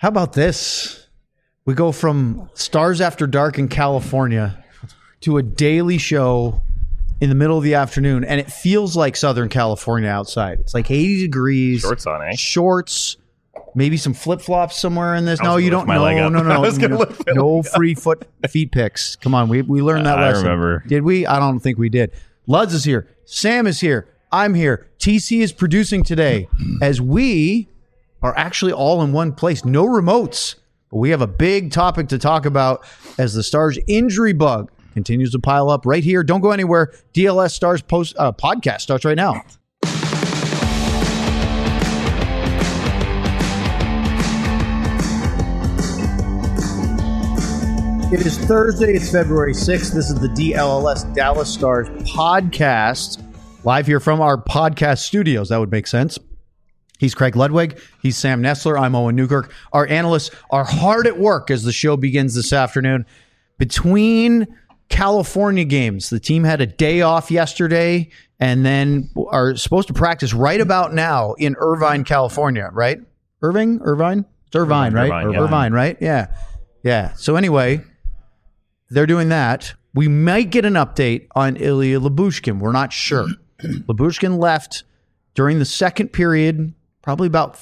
How about this? We go from Stars After Dark in California to a daily show in the middle of the afternoon, and it feels like Southern California outside. It's like 80 degrees. Shorts on, eh? Shorts. Maybe some flip-flops somewhere in this. No, you don't. No free feet picks. Come on, we learned that lesson. I remember. Did we? I don't think we did. Luds is here. Sam is here. I'm here. TC is producing today as we are actually all in one place. No remotes. But we have a big topic to talk about as the Stars injury bug continues to pile up right here. Don't go anywhere. DLS Stars podcast starts right now. It is Thursday. It's February 6th. This is the DLS Dallas Stars podcast, live here from our podcast studios. That would make sense. He's Craig Ludwig. He's Sam Nestler. I'm Owen Newkirk. Our analysts are hard at work as the show begins this afternoon. Between California games, the team had a day off yesterday and then are supposed to practice right about now in Irvine, California, right? Irvine? It's Irvine, right? Irvine, right? Yeah. So anyway, they're doing that. We might get an update on Ilya Lyubushkin. We're not sure. Lyubushkin left during the second period, probably about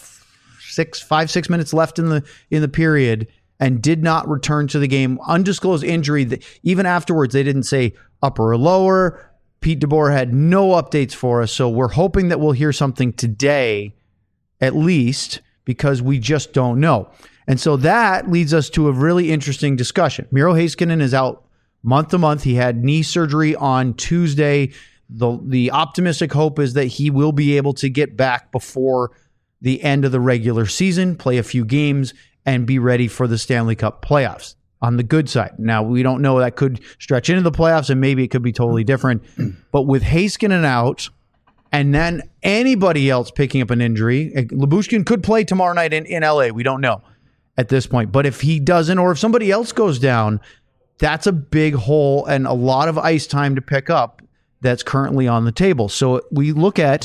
5-6 minutes left in the period, and did not return to the game. Undisclosed injury. That even afterwards, they didn't say upper or lower. Pete DeBoer had no updates for us, so we're hoping that we'll hear something today, at least, because we just don't know. And so that leads us to a really interesting discussion. Miro Heiskanen is out month to month. He had knee surgery on Tuesday. The optimistic hope is that he will be able to get back before the end of the regular season, play a few games, and be ready for the Stanley Cup playoffs on the good side. Now, we don't know. That could stretch into the playoffs, and maybe it could be totally different. But with Heiskanen out, and then anybody else picking up an injury, Lyubushkin could play tomorrow night in LA. We don't know at this point. But if he doesn't, or if somebody else goes down, that's a big hole and a lot of ice time to pick up that's currently on the table. So we look at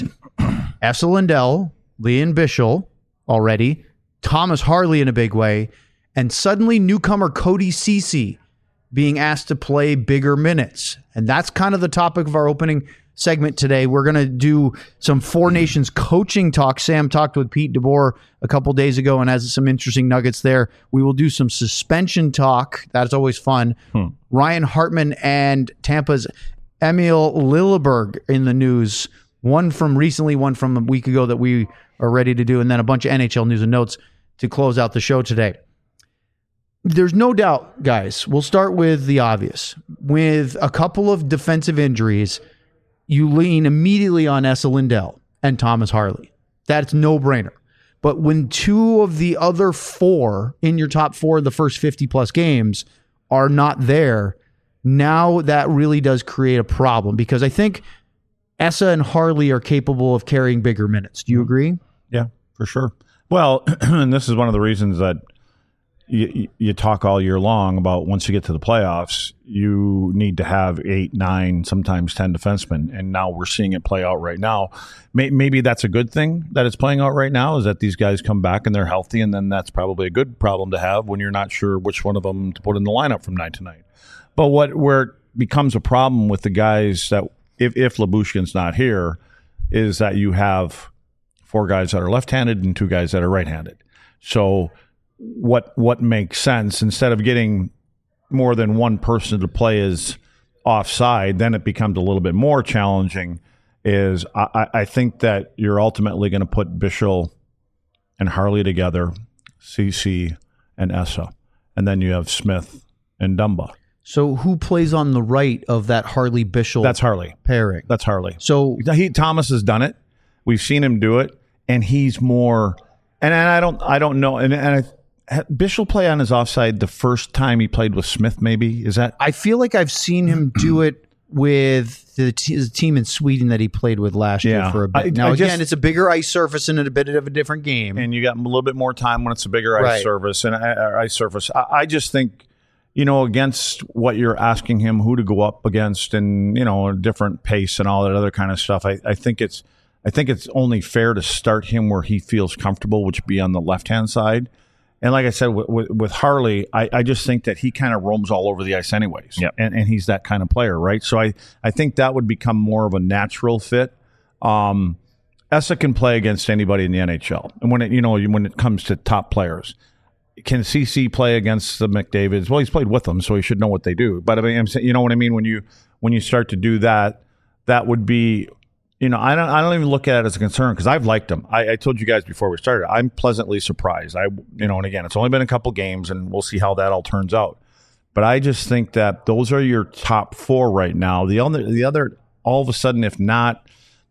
Esa Lindell, Lian Bichsel already, Thomas Harley in a big way, and suddenly newcomer Cody Ceci being asked to play bigger minutes. And that's kind of the topic of our opening segment today. We're going to do some Four Nations coaching talk. Sam talked with Pete DeBoer a couple days ago and has some interesting nuggets there. We will do some suspension talk. That's always fun. Ryan Hartman and Tampa's Emil Lilleberg in the news. One from recently, one from a week ago that we are ready to do, and then a bunch of NHL news and notes to close out the show today. There's no doubt, guys, we'll start with the obvious. With a couple of defensive injuries, you lean immediately on Esa Lindell and Thomas Harley. That's no-brainer. But when two of the other four in your top four of the first 50-plus games are not there, now that really does create a problem, because I think Esa and Harley are capable of carrying bigger minutes. Do you agree? Yeah, for sure. Well, and this is one of the reasons that you talk all year long about once you get to the playoffs, you need to have 8, 9, sometimes 10 defensemen. And now we're seeing it play out right now. Maybe that's a good thing that it's playing out right now, is that these guys come back and they're healthy. And then that's probably a good problem to have when you're not sure which one of them to put in the lineup from night to night. But where it becomes a problem with the guys that if Lyubushkin's not here is that you have 4 guys that are left-handed and 2 guys that are right-handed. So what makes sense, instead of getting more than one person to play as offside, then it becomes a little bit more challenging, is I think that you're ultimately going to put Bichsel and Harley together, CC and Esa, and then you have Smith and Dumba. So who plays on the right of that Harley Bichsel? That's Harley pairing. That's Harley. So Thomas has done it. We've seen him do it, and he's more. And I don't know. And Bichsel play on his offside the first time he played with Smith. Maybe is that? I feel like I've seen him do it with his team in Sweden that he played with last year for a bit. Now again, it's a bigger ice surface and a bit of a different game, and you got a little bit more time when it's a bigger ice surface. I just think, against what you're asking him, who to go up against, and a different pace and all that other kind of stuff. I think it's only fair to start him where he feels comfortable, which would be on the left-hand side. And like I said, with Harley, I just think that he kind of roams all over the ice anyways. Yep. And he's that kind of player, right? So I think that would become more of a natural fit. Essa can play against anybody in the NHL. And when it comes to top players, can CC play against the McDavids? Well, he's played with them, so he should know what they do. But I mean, I'm saying, you know what I mean? When you start to do that, that would be, I don't even look at it as a concern because I've liked him. I told you guys before we started, I'm pleasantly surprised. And again, it's only been a couple games, and we'll see how that all turns out. But I just think that those are your top 4 right now. The other, all of a sudden, if not,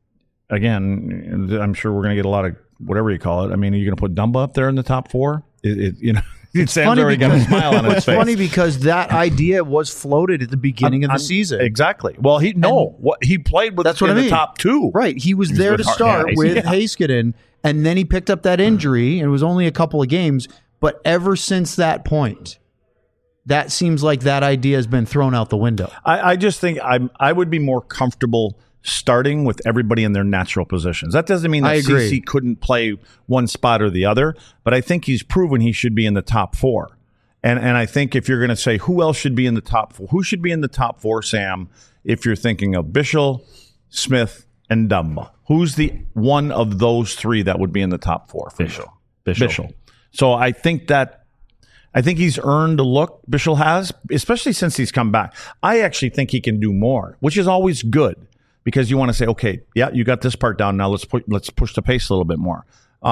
again, I'm sure we're going to get a lot of whatever you call it. I mean, are you going to put Dumba up there in the top 4? Sam's already got a smile on his face. It's funny because that idea was floated at the beginning of the season. Exactly. Well, he played with the top 2. Right. He was there to start with Heiskanen, and then he picked up that injury, and it was only a couple of games. But ever since that point, that seems like that idea has been thrown out the window. I just think I would be more comfortable starting with everybody in their natural positions. That doesn't mean that CC couldn't play one spot or the other, but I think he's proven he should be in the top 4. And I think if you're going to say who else should be in the top 4, who should be in the top 4, Sam, if you're thinking of Bichsel, Smith, and Dumba, who's the one of those 3 that would be in the top 4? Bichsel. So I think he's earned a look. Bichsel has, especially since he's come back. I actually think he can do more, which is always good. Because you want to say, okay, yeah, you got this part down. Now let's push the pace a little bit more.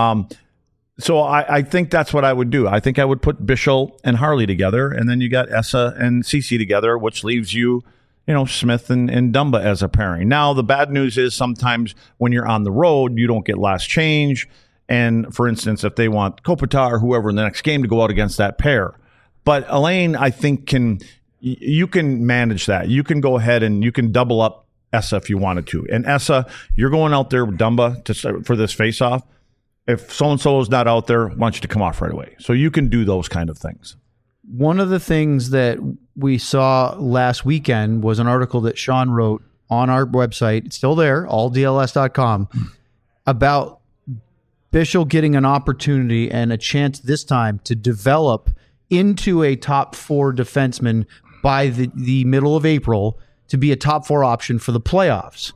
So I think that's what I would do. I think I would put Bichsel and Harley together, and then you got Essa and CC together, which leaves you, Smith and Dumba as a pairing. Now the bad news is sometimes when you're on the road, you don't get last change. And for instance, if they want Kopitar or whoever in the next game to go out against that pair, but Elaine, I think you can manage that. You can go ahead and you can double up Essa if you wanted to. And Essa, you're going out there with Dumba for this face-off. If so-and-so is not out there, I want you to come off right away. So you can do those kind of things. One of the things that we saw last weekend was an article that Sean wrote on our website. It's still there, alldls.com, about Bichsel getting an opportunity and a chance this time to develop into a top 4 defenseman by the middle of April to be a top 4 option for the playoffs.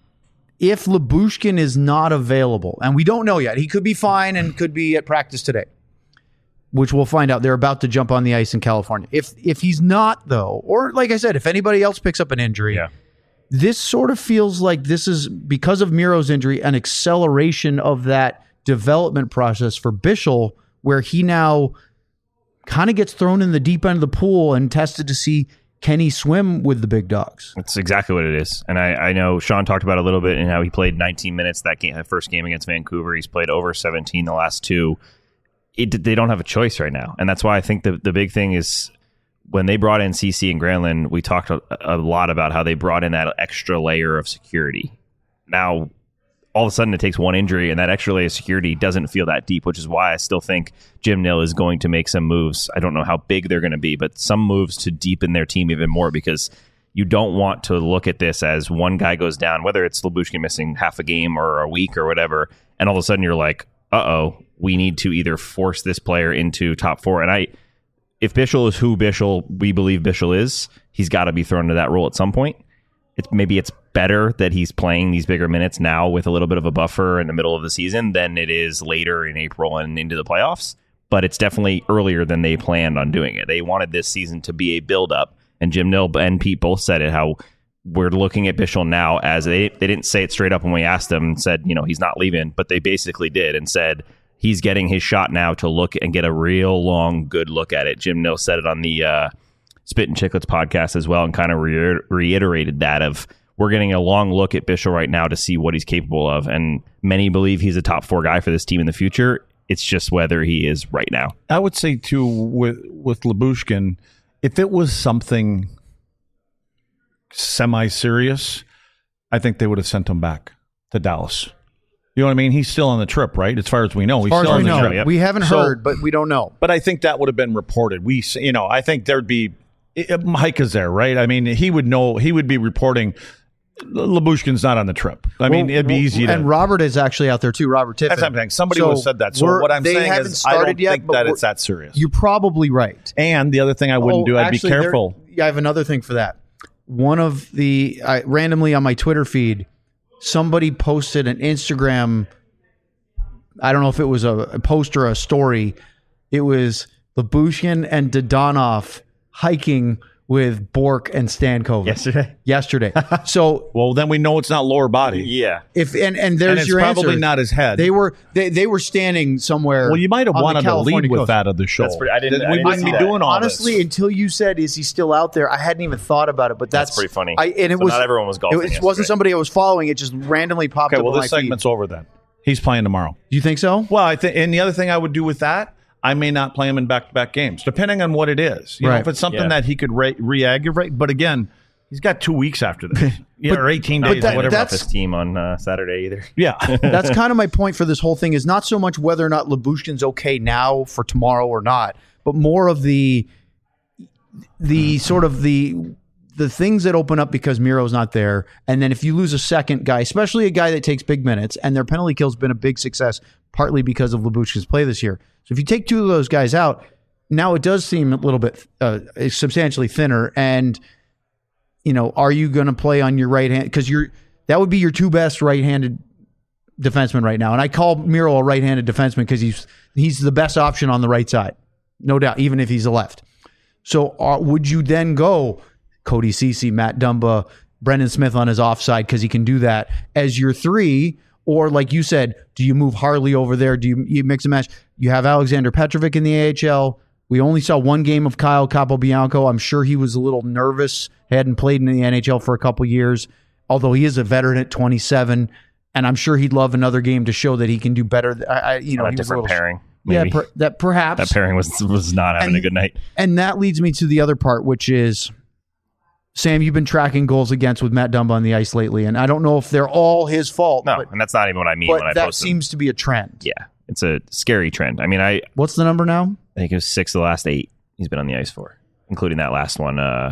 If Lyubushkin is not available, and we don't know yet, he could be fine and could be at practice today, which we'll find out. They're about to jump on the ice in California. If he's not, though, or like I said, if anybody else picks up an injury, this sort of feels like this is, because of Miro's injury, an acceleration of that development process for Bichsel, where he now kind of gets thrown in the deep end of the pool and tested to see, can he swim with the big dogs? That's exactly what it is. And I know Sean talked about it a little bit in how he played 19 minutes that first game against Vancouver. He's played over 17 the last 2. They don't have a choice right now. And that's why I think the big thing is when they brought in CC and Granlund, we talked a lot about how they brought in that extra layer of security. Now, all of a sudden it takes one injury and that extra layer of security doesn't feel that deep, which is why I still think Jim Nill is going to make some moves. I don't know how big they're going to be, but some moves to deepen their team even more, because you don't want to look at this as one guy goes down, whether it's Lyubushkin missing half a game or a week or whatever, and all of a sudden you're like, we need to either force this player into top 4. And if Bichsel is who we believe Bichsel is, he's got to be thrown into that role at some point. Maybe it's better that he's playing these bigger minutes now with a little bit of a buffer in the middle of the season than it is later in April and into the playoffs. But it's definitely earlier than they planned on doing it. They wanted this season to be a build-up, and Jim Nill and Pete both said it, how we're looking at Bichsel now as they didn't say it straight up when we asked them and said, he's not leaving, but they basically did and said he's getting his shot now to look and get a real long, good look at it. Jim Nill said it on the Spit and Chicklets podcast as well, and kind of reiterated that of, we're getting a long look at Bichsel right now to see what he's capable of. And many believe he's a top 4 guy for this team in the future. It's just whether he is right now. I would say, too, with Lyubushkin, if it was something semi-serious, I think they would have sent him back to Dallas. You know what I mean? He's still on the trip, right? As far as we know. He's still on the trip. Yep. We haven't heard, but we don't know. But I think that would have been reported. I think there'd be... Mike is there, right? I mean, he would know. He would be reporting... Labushkin's not on the trip. I mean, it'd be easy to. And Robert is actually out there too. Robert Tiffin. That's what I'm saying. Somebody would have said that. So what I'm saying is, I don't think that it's that serious. You're probably right. And the other thing I wouldn't do, I'd be careful. I have another thing for that. One of the randomly on my Twitter feed, somebody posted an Instagram. I don't know if it was a post or a story. It was Labushkin and Dodonov hiking with Bork and Stankovic yesterday. So, well, then we know it's not lower body. Yeah. If and there's and it's your probably answer. not his head. They were standing somewhere. Well, you might have wanted to lead with coast. that of the show. We wouldn't be doing all honestly this. until you said, "Is he still out there?" I hadn't even thought about it. But that's pretty funny. Not everyone was golfing. It wasn't somebody I was following. It just randomly popped up. Okay, well, on this my segment's feed. over then. He's playing tomorrow. Do you think so? Well, I think, and the other thing I would do with that, I may not play him in back-to-back games, depending on what it is. You know, if it's something that he could re-aggravate, but again, he's got 2 weeks after this, or 18 days, whatever. whatever. That's his team on Saturday either. Yeah, that's kind of my point for this whole thing. Is not so much whether or not Labushkin's okay now for tomorrow or not, but more of the sort of the things that open up because Miro's not there, and then if you lose a second guy, especially a guy that takes big minutes, and their penalty kill's been a big success, partly because of Labushkin's play this year. So if you take two of those guys out, now it does seem a little bit substantially thinner. And you know, are you going to play on your right hand? Because that would be your two best right-handed defensemen right now. And I call Miro a right-handed defenseman because he's the best option on the right side, no doubt, even if he's a left. So would you then go Cody Ceci, Matt Dumba, Brendan Smith on his offside because he can do that as your three? Or like you said, do you move Harley over there? Do you mix and match? You have Alexander Petrovic in the AHL. We only saw one game of Kyle Capobianco. I'm sure he was a little nervous. Hadn't played in the NHL for a couple years, although he is a veteran at 27. And I'm sure he'd love another game to show that he can do better. A different pairing. Maybe. Yeah, perhaps. That pairing was not having a good night. And that leads me to the other part, which is, Sam, you've been tracking goals against with Matt Dumba on the ice lately, and I don't know if they're all his fault. No, and that's not even what I mean when I post them. That seems to be a trend. Yeah, it's a scary trend. I mean, what's the number now? I think it was 6 of the last 8 he's been on the ice for, including that last one, the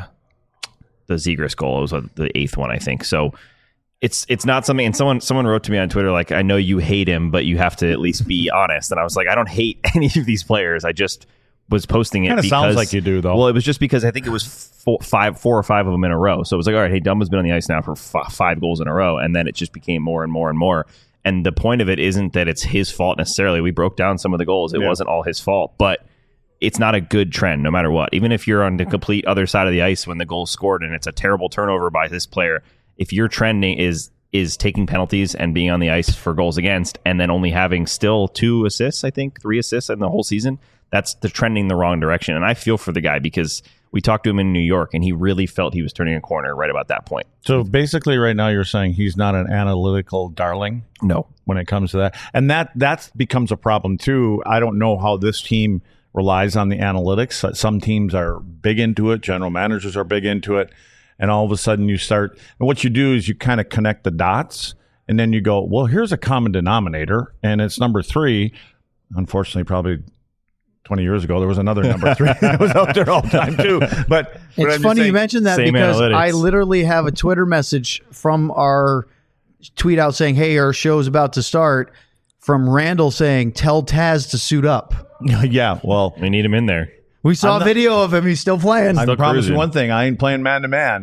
Zegras goal. It was the 8th one, I think. So it's not something. And someone wrote to me on Twitter like, I know you hate him, but you have to at least be honest. And I was like, I don't hate any of these players. I just was posting it. Kind of sounds like you do, though. Well, it was just because I think it was 4 or 5 of them in a row. So it was like, all right, hey, Dumba's been on the ice now for 5 goals in a row, and then it just became more and more and more. And the point of it isn't that it's his fault necessarily. We broke down some of the goals. It wasn't all his fault, but it's not a good trend no matter what. Even if you're on the complete other side of the ice when the goal's scored and it's a terrible turnover by this player, if your trending is taking penalties and being on the ice for goals against and then only having still 2 assists, I think 3 assists in the whole season, that's the trending the wrong direction. And I feel for the guy because we talked to him in New York and he really felt he was turning a corner right about that point. So basically right now you're saying he's not an analytical darling? No. When it comes to that. And that becomes a problem too. I don't know how this team relies on the analytics. Some teams are big into it. General managers are big into it. And all of a sudden you start, and what you do is you kind of connect the dots and then you go, well, here's a common denominator and it's number 3. Unfortunately, probably 20 years ago, there was another number 3 that was out there all the time too. But it's funny you mentioned that because analytics. I literally have a Twitter message from our tweet out saying, hey, our show's about to start, from Randall saying, tell Taz to suit up. Yeah, well, we need him in there. We saw a video of him. He's still playing. I promise you one thing. I ain't playing man-to-man.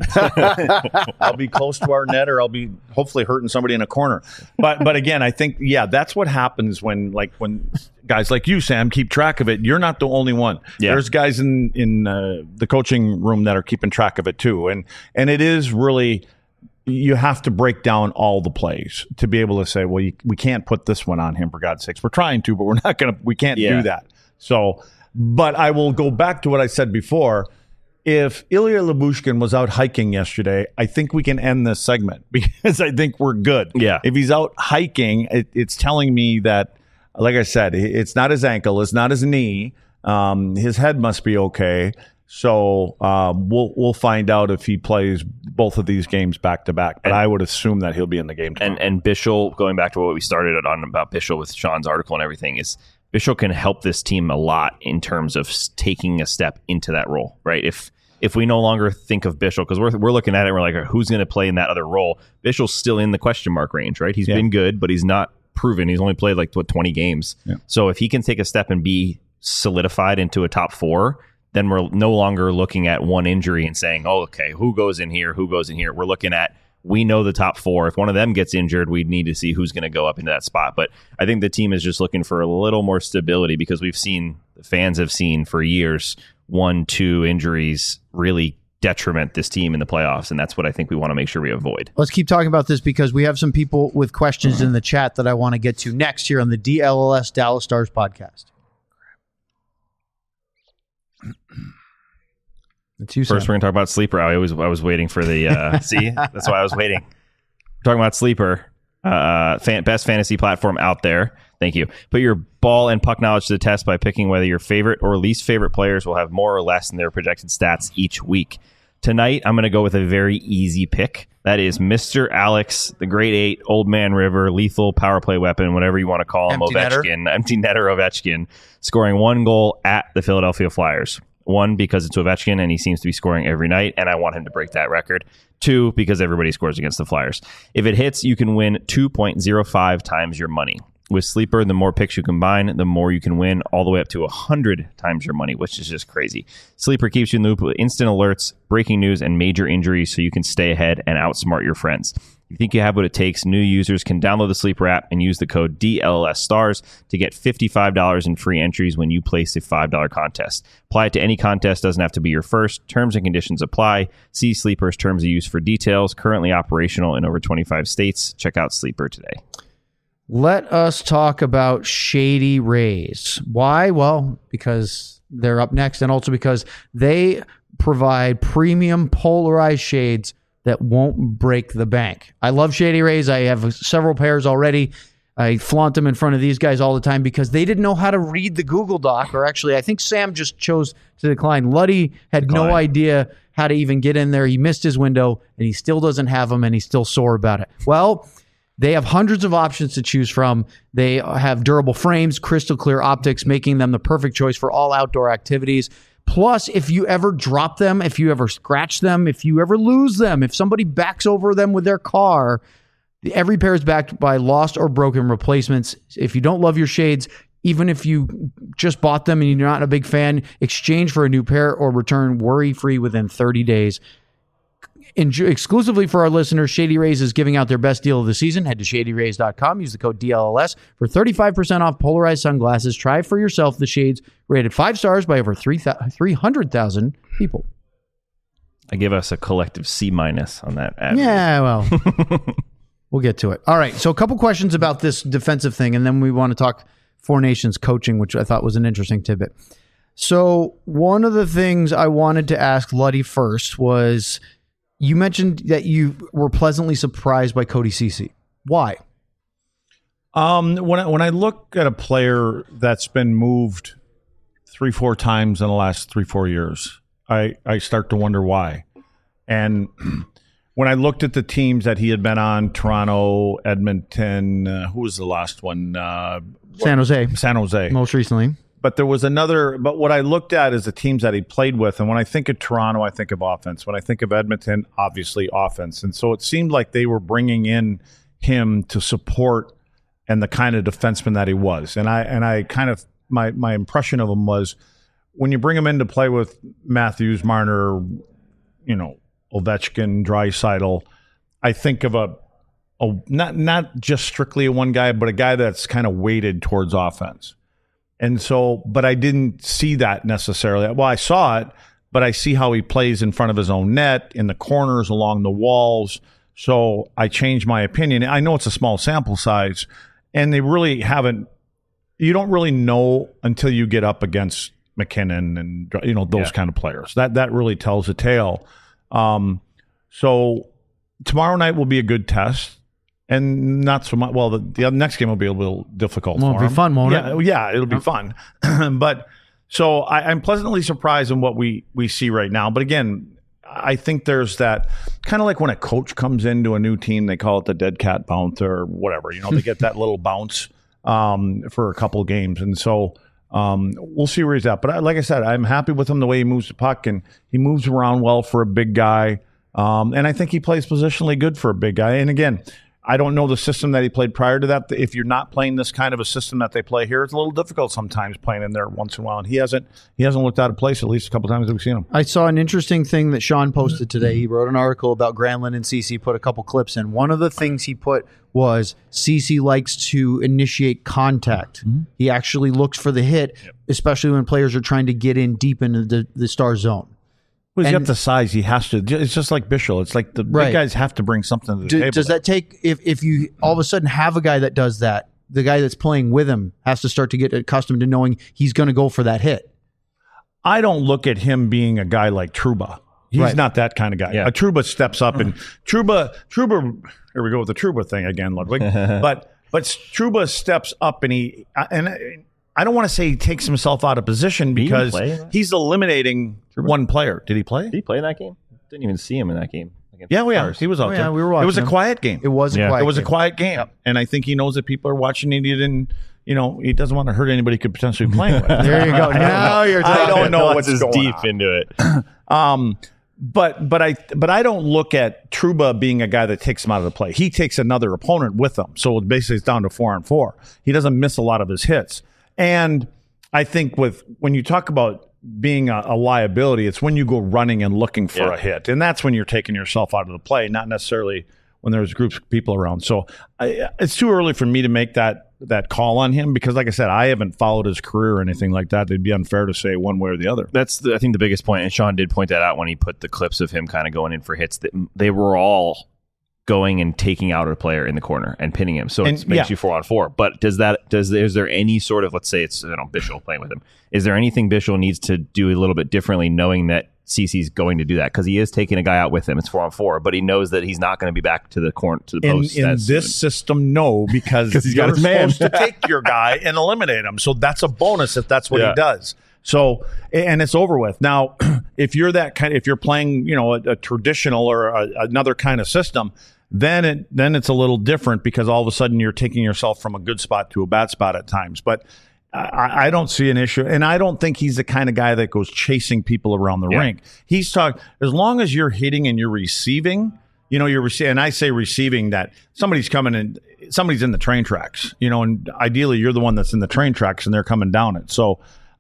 I'll be close to our net or I'll be hopefully hurting somebody in a corner. But again, I think, that's what happens when guys like you, Sam, keep track of it. You're not the only one. Yeah. There's guys in the coaching room that are keeping track of it too. And it is really, you have to break down all the plays to be able to say, well, we can't put this one on him for God's sakes. We're trying to, but we can't do that. So, but I will go back to what I said before. If Ilya Labushkin was out hiking yesterday, I think we can end this segment because I think we're good. Yeah. If he's out hiking, it's telling me that, like I said, it's not his ankle, it's not his knee. His head must be okay. So we'll find out if he plays both of these games back to back. But I would assume that he'll be in the game tomorrow. And Bischel, going back to what we started on about Bischel with Sean's article and everything, is Bischel can help this team a lot in terms of taking a step into that role, right? If if we no longer think of Bischel, because we're looking at it, and we're like, who's going to play in that other role? Bischel's still in the question mark range, right? He's been good, but he's not proven. He's only played 20 games. Yeah. So if he can take a step and be solidified into a top 4, then we're no longer looking at one injury and saying, oh, okay, who goes in here? We're looking at, we know the top 4. If one of them gets injured, we need to see who's going to go up into that spot. But I think the team is just looking for a little more stability, because the fans have seen for years 1-2 injuries really detriment this team in the playoffs, and that's what I think we want to make sure we avoid. Let's keep talking about this, because we have some people with questions in the chat that I want to get to next here on the DLLS Dallas Stars podcast. It's you, First, we're going to talk about Sleeper. I was waiting for the see. That's why I was waiting. We're talking about Sleeper, best fantasy platform out there. Thank you. Put your ball and puck knowledge to the test by picking whether your favorite or least favorite players will have more or less in their projected stats each week. Tonight, I'm going to go with a very easy pick. That is Mr. Alex, the Great 8, Old Man River, lethal power play weapon, whatever you want to call him, empty netter Ovechkin, scoring 1 goal at the Philadelphia Flyers. 1, because it's Ovechkin and he seems to be scoring every night, and I want him to break that record. 2, because everybody scores against the Flyers. If it hits, you can win 2.05 times your money. With Sleeper, the more picks you combine, the more you can win, all the way up to 100 times your money, which is just crazy. Sleeper keeps you in the loop with instant alerts, breaking news, and major injuries, so you can stay ahead and outsmart your friends. If you think you have what it takes, new users can download the Sleeper app and use the code DLLSSTARS to get $55 in free entries when you place a $5 contest. Apply it to any contest, doesn't have to be your first. Terms and conditions apply. See Sleeper's terms of use for details. Currently operational in over 25 states. Check out Sleeper today. Let us talk about Shady Rays. Why? Well, because they're up next, and also because they provide premium polarized shades that won't break the bank. I love Shady Rays. I have several pairs already. I flaunt them in front of these guys all the time because they didn't know how to read the Google Doc, or actually, I think Sam just chose to decline. Luddy had no idea how to even get in there. He missed his window, and he still doesn't have them, and he's still sore about it. Well, they have hundreds of options to choose from. They have durable frames, crystal clear optics, making them the perfect choice for all outdoor activities. Plus, if you ever drop them, if you ever scratch them, if you ever lose them, if somebody backs over them with their car, every pair is backed by lost or broken replacements. If you don't love your shades, even if you just bought them and you're not a big fan, exchange for a new pair or return worry-free within 30 days. Exclusively for our listeners, Shady Rays is giving out their best deal of the season. Head to shadyrays.com. Use the code DLLS for 35% off polarized sunglasses. Try for yourself the shades rated 5 stars by over 300,000 people. I give us a collective C- on that ad. Yeah, well, we'll get to it. All right, so a couple questions about this defensive thing, and then we want to talk Four Nations coaching, which I thought was an interesting tidbit. So one of the things I wanted to ask Luddy first was, you mentioned that you were pleasantly surprised by Cody Ceci. Why? When I look at a player that's been moved 3-4 times in the last 3-4 years, I start to wonder why. And when I looked at the teams that he had been on, Toronto, Edmonton, who was the last one? San Jose. San Jose. Most recently. But there was another, but what I looked at is the teams that he played with. And when I think of Toronto, I think of offense. When I think of Edmonton, obviously offense. And so it seemed like they were bringing in him to support and the kind of defenseman that he was. And I kind of, my impression of him was, when you bring him in to play with Matthews, Marner, Ovechkin, Draisaitl, I think of a not just strictly a one guy, but a guy that's kind of weighted towards offense. And so, but I didn't see that necessarily. Well, I saw it, but I see how he plays in front of his own net, in the corners, along the walls. So I changed my opinion. I know it's a small sample size, and they really haven't. You don't really know until you get up against McKinnon and those kind of players. That really tells a tale. So tomorrow night will be a good test. And not so much. Well, the next game will be a little difficult. Well, it'll be fun, won't it? Yeah, it'll be fun. But so I'm pleasantly surprised in what we see right now. But again, I think there's that kind of like when a coach comes into a new team, they call it the dead cat bounce or whatever. They get that little bounce for a couple games. And so We'll see where he's at. But like I said, I'm happy with him the way he moves the puck, and he moves around well for a big guy. And I think he plays positionally good for a big guy. And again, I don't know the system that he played prior to that. If you're not playing this kind of a system that they play here, it's a little difficult sometimes playing in there once in a while. And he hasn't looked out of place at least a couple times that we've seen him. I saw an interesting thing that Sean posted today. He wrote an article about Granlund and Ceci, put a couple clips in. One of the things he put was Ceci likes to initiate contact. Mm-hmm. He actually looks for the hit, especially when players are trying to get in deep into the Star zone. Well, he's got the size. He has to. It's just like Bischel. It's like the big guys have to bring something to the table. Does that take, if you all of a sudden have a guy that does that, the guy that's playing with him has to start to get accustomed to knowing he's going to go for that hit? I don't look at him being a guy like Trouba. He's not that kind of guy. Yeah. Trouba steps up, and Trouba. Here we go with the Trouba thing again, Ludwig. but Trouba steps up, and I don't want to say he takes himself out of position because he's eliminating one player. Did he play? Did he play in that game? Didn't even see him in that game. He was out there. We were watching. It was a quiet game. It was a quiet game. Yep. And I think he knows that people are watching, and he didn't. He doesn't want to hurt anybody he could potentially be playing with. There you go. Now you're talking. I don't know what's going deep on. Into it. But I don't look at Trouba being a guy that takes him out of the play. He takes another opponent with him. So basically it's down to 4-on-4. He doesn't miss a lot of his hits. And I think when you talk about being a liability, it's when you go running and looking for a hit. And that's when you're taking yourself out of the play, not necessarily when there's groups of people around. So it's too early for me to make that call on him because, like I said, I haven't followed his career or anything like that. It'd be unfair to say one way or the other. That's, I think, the biggest point. And Sean did point that out when he put the clips of him kind of going in for hits. That they were all going and taking out a player in the corner and pinning him. So it makes you 4-on-4. But is there any sort of, let's say it's Bischel playing with him, is there anything Bischel needs to do a little bit differently knowing that Ceci's going to do that? Because he is taking a guy out with him. It's 4-on-4, but he knows that he's not going to be back to the corner, to the post. In this system, no, because he's got his man. Supposed to take your guy and eliminate him. So that's a bonus if that's what he does. So, and it's over with. Now, if you're if you're playing, a traditional or another kind of system, then it's a little different because all of a sudden you're taking yourself from a good spot to a bad spot at times. But I don't see an issue, and I don't think he's the kind of guy that goes chasing people around the rink. He's talking as long as you're hitting and you're receiving. And I say receiving that somebody's coming in, somebody's in the train tracks. And ideally you're the one that's in the train tracks and they're coming down it. So.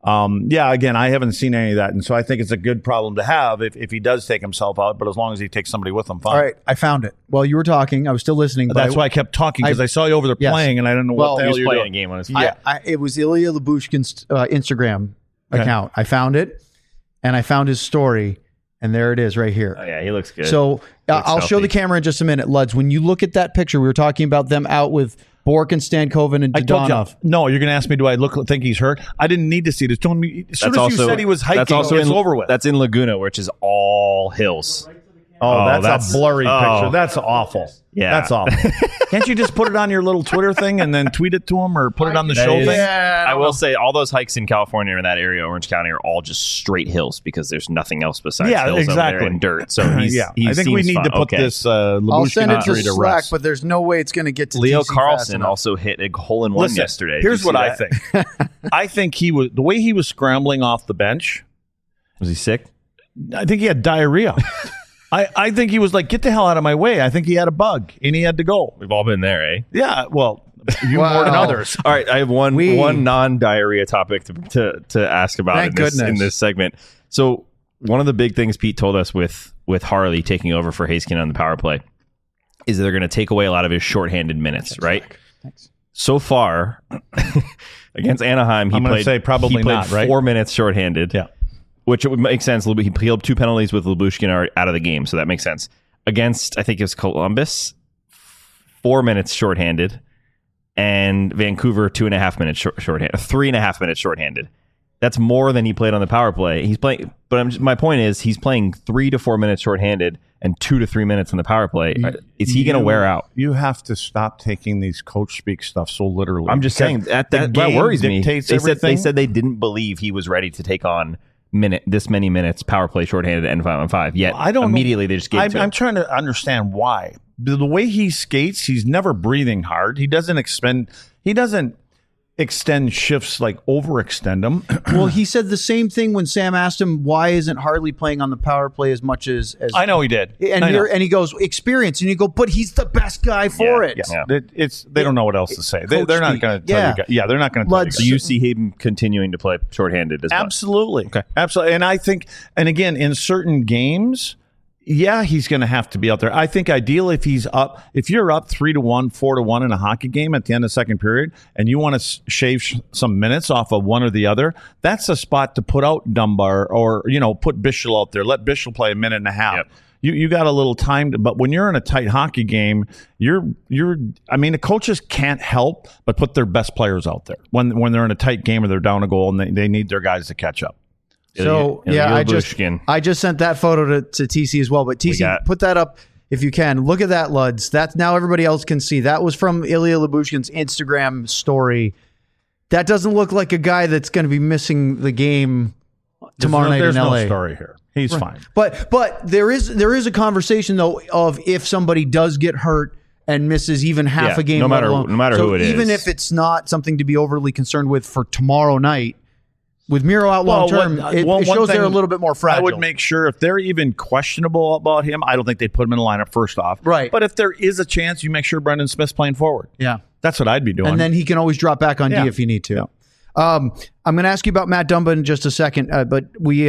Again, I haven't seen any of that. And so I think it's a good problem to have if he does take himself out, but as long as he takes somebody with him, fine. All right, I found it. While you were talking, I was still listening. But that's why I kept talking, because I saw you over there playing, and I didn't know what the hell you were doing. A game on his phone. It was Ilya Lyubushkin's Instagram account. I found it, and I found his story, and there it is right here. Oh, yeah, he looks good. So I'll show the camera in just a minute. Luds, when you look at that picture, we were talking about them out with Bork and Stankoven and Dadonov. No, you're going to ask me, do I think he's hurt? I didn't need to see it. As soon as you said he was hiking, it's over with. That's in Laguna, which is all hills. That's a blurry picture. That's awful. Yeah. That's awful. Can't you just put it on your little Twitter thing and then tweet it to him or put it on the show thing? Yeah, I will say all those hikes in California or in that area, Orange County, are all just straight hills because there's nothing else besides hills over there and dirt. So I think we need to put this I'll send it to Slack, rest. But there's no way it's going to get to Leo TC Carlson also hit a hole-in-one yesterday. Here's what I think. I think the way he was scrambling off the bench. Was he sick? I think he had diarrhea. I think he was like, get the hell out of my way. I think he had a bug, and he had to go. We've all been there, eh? Yeah, well, you more than others. All right, I have one non-diarrhea topic to ask about in this segment. So one of the big things Pete told us with Harley taking over for Haskin on the power play is that they're going to take away a lot of his shorthanded minutes, right? Thanks. So far, against Anaheim, he played 4 minutes shorthanded. Yeah. Which it would make sense. He had 2 penalties with Lyubushkin out of the game, so that makes sense. Against, I think it was Columbus, 4 minutes shorthanded, and Vancouver 2.5 minutes shorthanded, 3.5 minutes shorthanded. That's more than he played on the power play. He's playing, but my point is, he's playing 3 to 4 minutes shorthanded and 2 to 3 minutes on the power play. Is he going to wear out? You have to stop taking these coach speak stuff so literally. I'm just saying that worries me. They said they didn't believe he was ready to take on this many minutes power play shorthanded and 5-on-5. Yet immediately they just gave it to him. I'm trying to understand why. The way he skates, he's never breathing hard. He doesn't expend. He doesn't. extend shifts, like overextend them. Well, he said the same thing when Sam asked him why isn't Harley playing on the power play as much as I know he did. And he goes, experience. And you go, but he's the best guy for it. Yeah. They don't know what else to say. They're not going to tell you guys. Yeah, they're not going to tell you guys. Do you see him continuing to play shorthanded as much? Absolutely. Okay. Absolutely. And I think, and again, in certain games, yeah, he's going to have to be out there. I think ideally if you're up 3-1, 4-1 in a hockey game at the end of the second period and you want to shave some minutes off of one or the other, that's a spot to put out Dunbar or, put Bischel out there. Let Bischel play a minute and a half. Yep. You got a little time, but when you're in a tight hockey game, the coaches can't help but put their best players out there when they're in a tight game or they're down a goal and they need their guys to catch up. So I just sent that photo to TC as well. But TC, put that up if you can. Look at that, Luds. That's now everybody else can see. That was from Ilya Lyubushkin's Instagram story. That doesn't look like a guy that's going to be missing the game tomorrow night in LA. There's no story here. He's fine. But there is a conversation though of if somebody does get hurt and misses even half a game, no matter who it is, even if it's not something to be overly concerned with for tomorrow night. With Miro out long term, it shows they're a little bit more fragile. I would make sure if they're even questionable about him, I don't think they'd put him in the lineup first off. Right. But if there is a chance, you make sure Brendan Smith's playing forward. Yeah. That's what I'd be doing. And then he can always drop back on D if you need to. Yeah. I'm going to ask you about Matt Dumba in just a second, but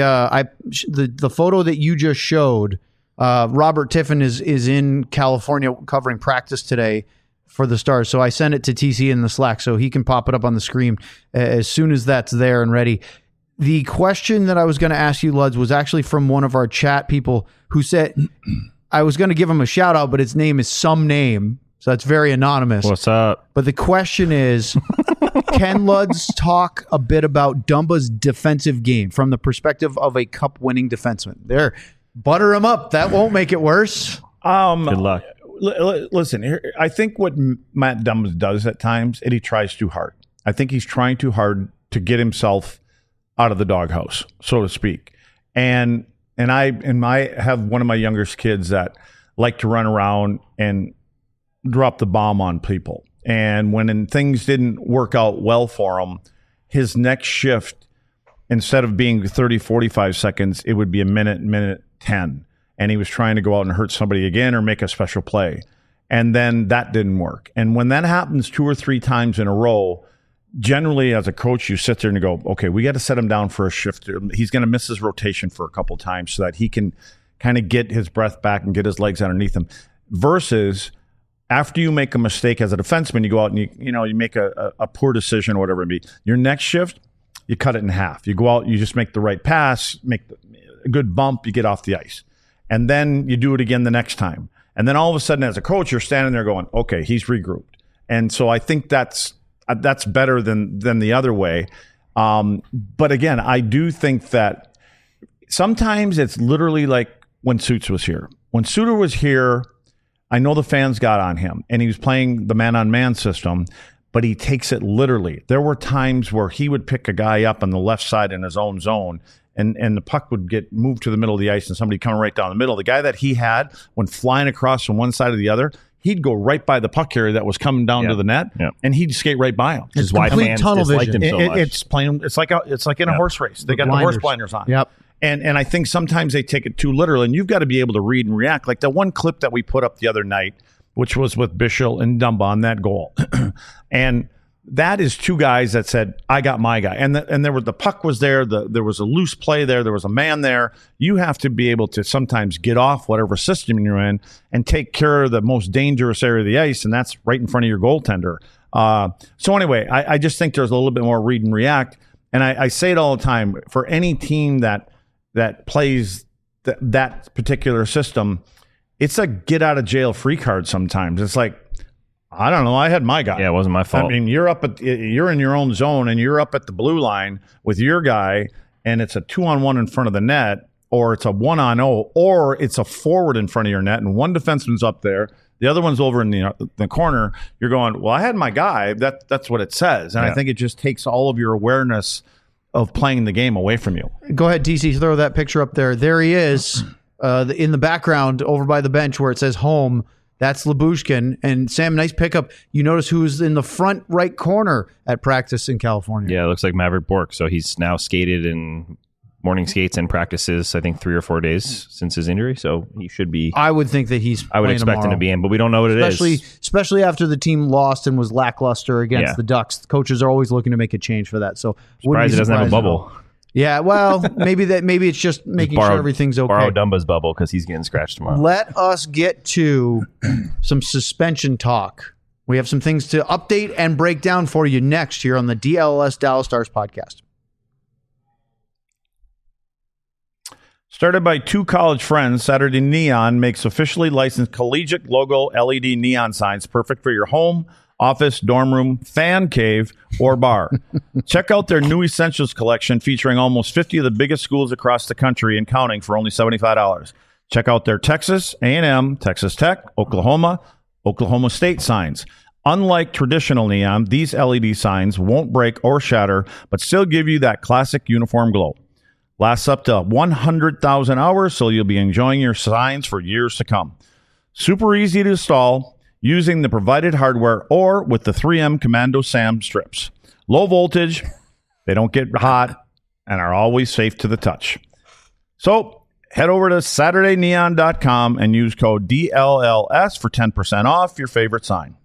the photo that you just showed, Robert Tiffin is in California covering practice today for the Stars. So I sent it to TC in the Slack so he can pop it up on the screen as soon as that's there and ready. The question that I was going to ask you, Luds, was actually from one of our chat people who said, I was going to give him a shout out, but his name is some name. So that's very anonymous. What's up? But the question is, can Luds talk a bit about Dumba's defensive game from the perspective of a cup-winning defenseman? There, butter him up. That won't make it worse. Good luck. Listen, I think what Matt Dumba does at times is he tries too hard. I think he's trying too hard to get himself out of the doghouse, so to speak. And I have one of my youngest kids that like to run around and drop the bomb on people. And when things didn't work out well for him, his next shift, instead of being 30, 45 seconds, it would be a minute 10. And he was trying to go out and hurt somebody again or make a special play. And then that didn't work. And when that happens 2 or 3 times in a row, generally as a coach, you sit there and you go, okay, we got to set him down for a shift. He's going to miss his rotation for a couple times so that he can kind of get his breath back and get his legs underneath him. Versus after you make a mistake as a defenseman, you go out and you make a poor decision or whatever it be. Your next shift, you cut it in half. You go out, you just make the right pass, make a good bump, you get off the ice. And then you do it again the next time. And then all of a sudden as a coach, you're standing there going, okay, he's regrouped. And so I think that's better than the other way. But again, I do think that sometimes it's literally like when Suits was here. When Suter was here, I know the fans got on him, and he was playing the man-on-man system, but he takes it literally. There were times where he would pick a guy up on the left side in his own zone, and the puck would get moved to the middle of the ice, and somebody coming right down the middle. The guy that he had, when flying across from one side to the other, he'd go right by the puck carrier that was coming down to the net, and he'd skate right by him. It's why fans disliked him so much. It's like in a horse race. They got the horse blinders on. Yep. And I think sometimes they take it too literal, and you've got to be able to read and react. Like the one clip that we put up the other night, which was with Bischel and Dumba on that goal. And that is 2 guys that said, I got my guy. And there was the puck was there. There was a loose play there. There was a man there. You have to be able to sometimes get off whatever system you're in and take care of the most dangerous area of the ice, and that's right in front of your goaltender. So anyway, I just think there's a little bit more read and react. And I say it all the time, for any team that plays that particular system, it's a get out of jail free card sometimes. It's like, I don't know, I had my guy. Yeah, it wasn't my fault. I mean, you're in your own zone and you're up at the blue line with your guy, and it's a 2-on-1 in front of the net, or it's a 1-on-0, or it's a forward in front of your net, and one defenseman's up there, the other one's over in the corner. You're going, well, I had my guy. That's what it says. And I think it just takes all of your awareness of playing the game away from you. Go ahead, TC, throw that picture up there. There he is in the background over by the bench where it says home. That's Lyubushkin. And Sam, nice pickup. You notice who's in the front right corner at practice in California. Yeah, it looks like Maverick Bork. So he's now skated in morning skates and practices, I think 3 or 4 days since his injury. So he should be. I would think that he's I would expect him to be in, but we don't know what it is. Especially after the team lost and was lackluster against the Ducks. The coaches are always looking to make a change for that. So surprised it doesn't have a bubble. Yeah, well, maybe it's just making sure everything's okay. Borrow Dumba's bubble because he's getting scratched tomorrow. Let us get to some suspension talk. We have some things to update and break down for you next here on the DLLS Dallas Stars podcast. Started by 2 college friends, Saturday Neon makes officially licensed collegiate logo LED neon signs perfect for your home, office, dorm room, fan cave, or bar. Check out their new Essentials collection featuring almost 50 of the biggest schools across the country and counting for only $75. Check out their Texas A&M, Texas Tech, Oklahoma State signs. Unlike traditional neon, these LED signs won't break or shatter, but still give you that classic uniform glow. Lasts up to 100,000 hours, so you'll be enjoying your signs for years to come. Super easy to install using the provided hardware or with the 3M Commando SAM strips. Low voltage, they don't get hot, and are always safe to the touch. So head over to SaturdayNeon.com and use code DLLS for 10% off your favorite sign.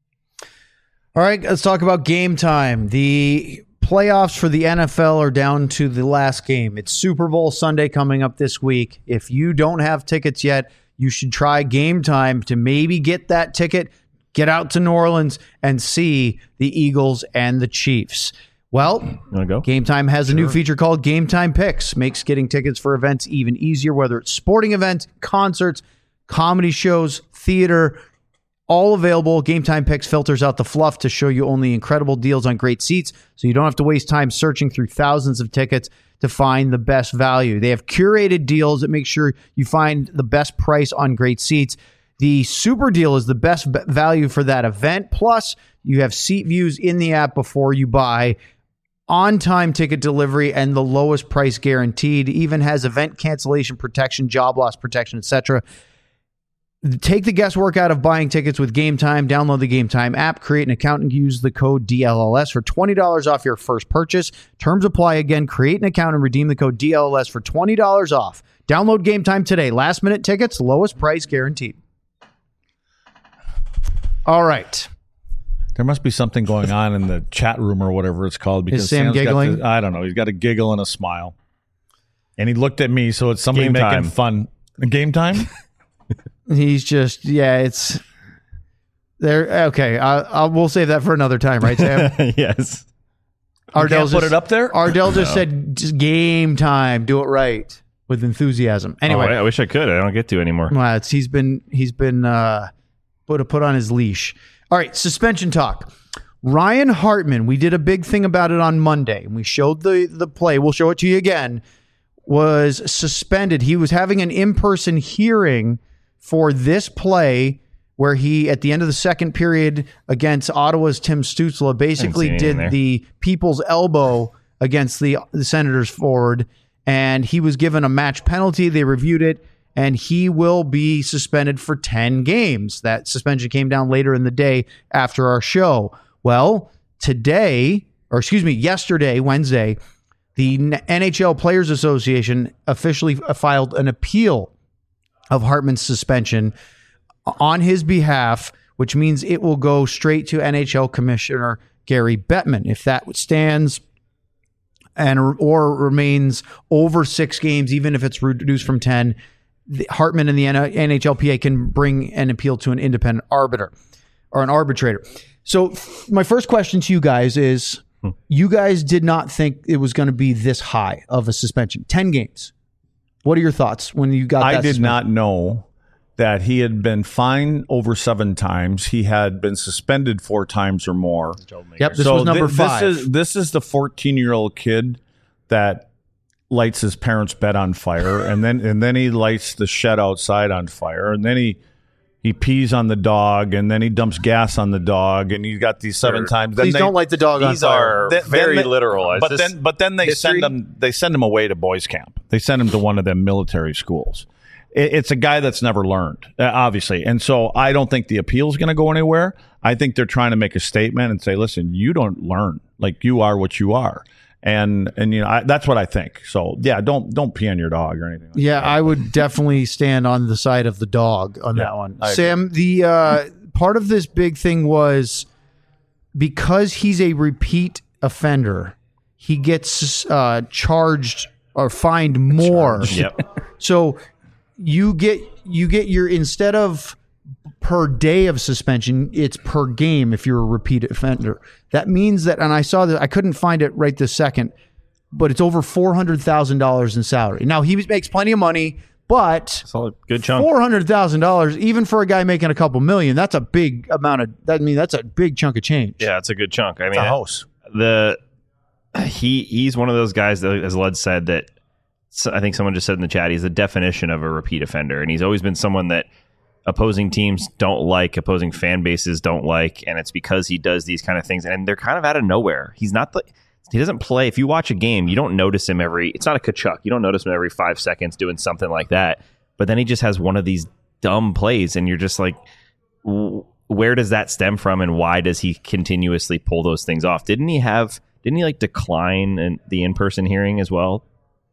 All right, let's talk about game time. The playoffs for the NFL are down to the last game. It's Super Bowl Sunday coming up this week. If you don't have tickets yet, you should try Game Time to maybe get that ticket, get out to New Orleans, and see the Eagles and the Chiefs. Well, Game Time has a new feature called Game Time Picks. Makes getting tickets for events even easier, whether it's sporting events, concerts, comedy shows, theater, all available. Game Time Picks filters out the fluff to show you only incredible deals on great seats, so you don't have to waste time searching through thousands of tickets to find the best value. They have curated deals that make sure you find the best price on great seats. The super deal is the best value for that event. Plus, you have seat views in the app before you buy, on-time ticket delivery, and the lowest price guaranteed. Even has event cancellation protection, job loss protection, etc. Take the guesswork out of buying tickets with Game Time. Download the Game Time app, create an account, and use the code DLLS for $20 off your first purchase. Terms apply. Again, create an account and redeem the code DLLS for $20 off. Download Game Time today. Last-minute tickets, lowest price guaranteed. All right. There must be something going on in the chat room or whatever it's called. Because is Sam Sam's giggling? I don't know. He's got a giggle and a smile. And he looked at me, so it's somebody making fun. Game Time? He's just, it's there. Okay, we'll save that for another time, right, Sam? Yes. Ardell put it up there. Ardell just said, just Game Time. Do it right with enthusiasm. Anyway, I wish I could. I don't get to anymore. Well, he's been put on his leash. All right, suspension talk. Ryan Hartman. We did a big thing about it on Monday, and we showed the play. We'll show it to you again. Was suspended. He was having an in-person hearing for this play where he, at the end of the second period against Ottawa's Tim Stützle, basically did the people's elbow against the Senators forward, and he was given a match penalty. They reviewed it, and he will be suspended for 10 games. That suspension came down later in the day after our show. Well, yesterday, Wednesday, the NHL Players Association officially filed an appeal of Hartman's suspension on his behalf, which means it will go straight to NHL Commissioner Gary Bettman. If that stands or remains over 6 games, even if it's reduced from 10, Hartman and the NHLPA can bring an appeal to an independent arbiter or an arbitrator. So my first question to you guys is, you guys did not think it was going to be this high of a suspension, 10 games. What are your thoughts when you got that? I did not know that he had been fined over 7 times. He had been suspended 4 times or more. Yep, this was number 5. This is the 14-year-old kid that lights his parents' bed on fire, and then he lights the shed outside on fire, and then he pees on the dog, and then he dumps gas on the dog, and he got these 7 times. Please don't light the dog on fire. These are very literal. But then they send him away to boys camp. They send him to one of them military schools. it's a guy that's never learned, obviously. And so I don't think the appeal is going to go anywhere. I think they're trying to make a statement and say, listen, you don't learn. Like, you are what you are. And that's what I think. So, yeah, don't pee on your dog or anything like that. I would definitely stand on the side of the dog on that one. Sam, the part of this big thing was because he's a repeat offender, he gets charged or fined more. Yep. So you get your, instead of per day of suspension, it's per game if you're a repeat offender. That means that, and I saw that, I couldn't find it right this second, but it's over $400,000 in salary. Now, he makes plenty of money, but It's a good chunk. $400,000, even for a guy making a couple million, that's a big amount of, that's a big chunk of change. Yeah, it's a good chunk. I mean, It's a house. He's one of those guys that, as Lud said, that I think someone just said in the chat, he's the definition of a repeat offender, and he's always been someone that opposing teams don't like, opposing fan bases don't like, and it's because he does these kind of things, and they're kind of out of nowhere. He doesn't play. If you watch a game, you don't notice him it's not a Kachuk. You don't notice him every 5 seconds doing something like that, but then he just has one of these dumb plays, and you're just like, where does that stem from, and why does he continuously pull those things off? Didn't he like decline the in-person hearing as well?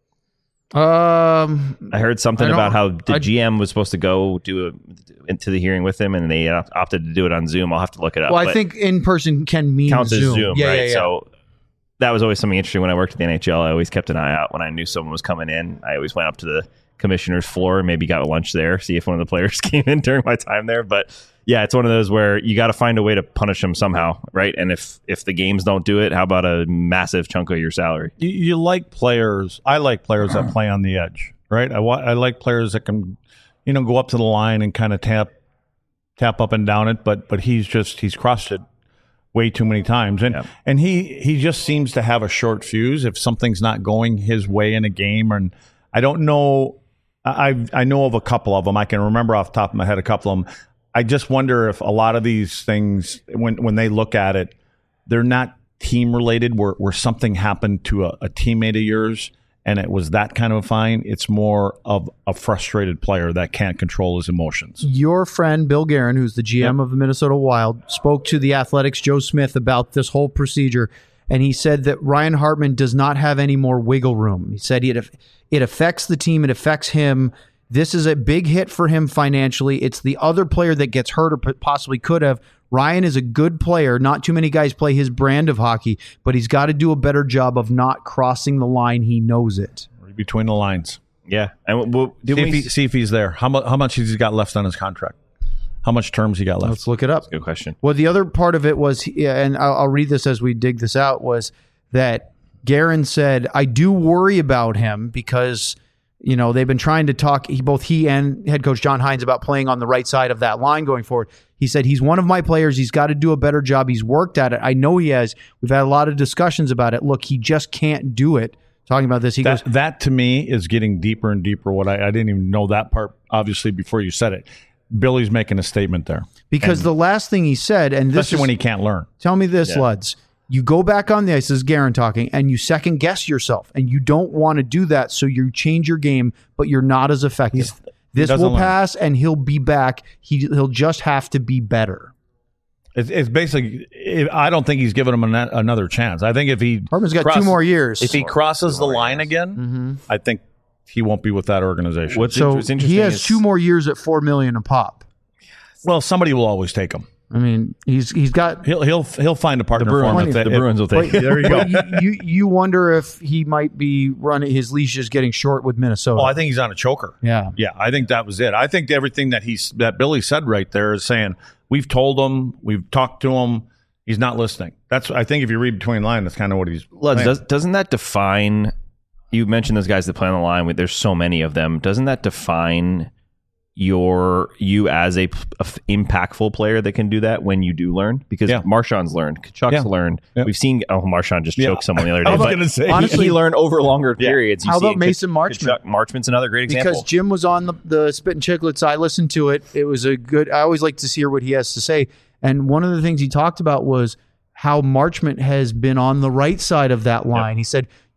I heard something about how the GM was supposed to go into the hearing with him, and they opted to do it on Zoom. I'll have to look it up. Well, I think in person can mean counts Zoom. as Zoom, Yeah, right? yeah, yeah. So that was always something interesting when I worked at the NHL. I always kept an eye out when I knew someone was coming in. I always went up to the commissioner's floor and maybe got lunch there, see if one of the players came in during my time there. But yeah, it's one of those where you got to find a way to punish them somehow, right? And if the games don't do it, how about a massive chunk of your salary? You like players. I like players that play on the edge, right? I like players that can, go up to the line and kind of tap up and down it. But he's crossed it way too many times, and he just seems to have a short fuse if something's not going his way in a game. And I don't know. I know of a couple of them. I can remember off the top of my head a couple of them. I just wonder if a lot of these things, when they look at it, they're not team related, where something happened to a teammate of yours and it was that kind of a fine. It's more of a frustrated player that can't control his emotions. Your friend Bill Guerin, who's the GM of the Minnesota Wild, spoke to the Athletics' Joe Smith about this whole procedure, and he said that Ryan Hartman does not have any more wiggle room. He said it affects the team, it affects him. This is a big hit for him financially. It's the other player that gets hurt or possibly could have. Ryan is a good player. Not too many guys play his brand of hockey, but he's got to do a better job of not crossing the line. He knows it. Read between the lines. Yeah. And see if he's there. How much has he got left on his contract? How much terms he got left? Let's look it up. Good question. Well, the other part of it was, and I'll read this as we dig this out, was that Guerin said, I do worry about him because they've been trying to talk, both he and head coach John Hines, about playing on the right side of that line going forward. He said, he's one of my players. He's got to do a better job. He's worked at it. I know he has. We've had a lot of discussions about it. Look, he just can't do it. Talking about this, he goes, that to me is getting deeper and deeper. What I didn't even know that part, obviously, before you said it. Billy's making a statement there. Because the last thing he said, and this especially when he can't learn. Tell me this, Luds. You go back on the ice, this is Guerin talking, and you second guess yourself, and you don't want to do that, so you change your game, but you're not as effective. This will pass, and he'll be back. He'll just have to be better. It's basically, I don't think he's given him another chance. I think if he Hartman's got 2 more years. If he crosses the line again, I think he won't be with that organization. What's interesting he has 2 more years at $4 million a pop. Well, somebody will always take him. I mean, he's got. He'll find a partner for him. The Bruins will take it. There you go. You wonder if he might be running, his leash is getting short with Minnesota. Oh, I think he's on a choker. Yeah. I think that was it. I think everything that Billy said right there is saying we've told him, we've talked to him, he's not listening. I think if you read between lines, that's kind of what he's. Doesn't that define? You mentioned those guys that play on the line. There's so many of them. Doesn't that define you as a impactful player that can do that when you do learn? Because Marchand's learned, Kachuk's learned. We've seen Marchand just choke someone the other day. I was going to say, honestly, he learned over longer periods. How about Mason Marchment? Marchment's another great example. Because Jim was on the Spit and Chicklets. I listened to it. It was a good. I always like to hear what he has to say. And one of the things he talked about was how Marchment has been on the right side of that line. He said,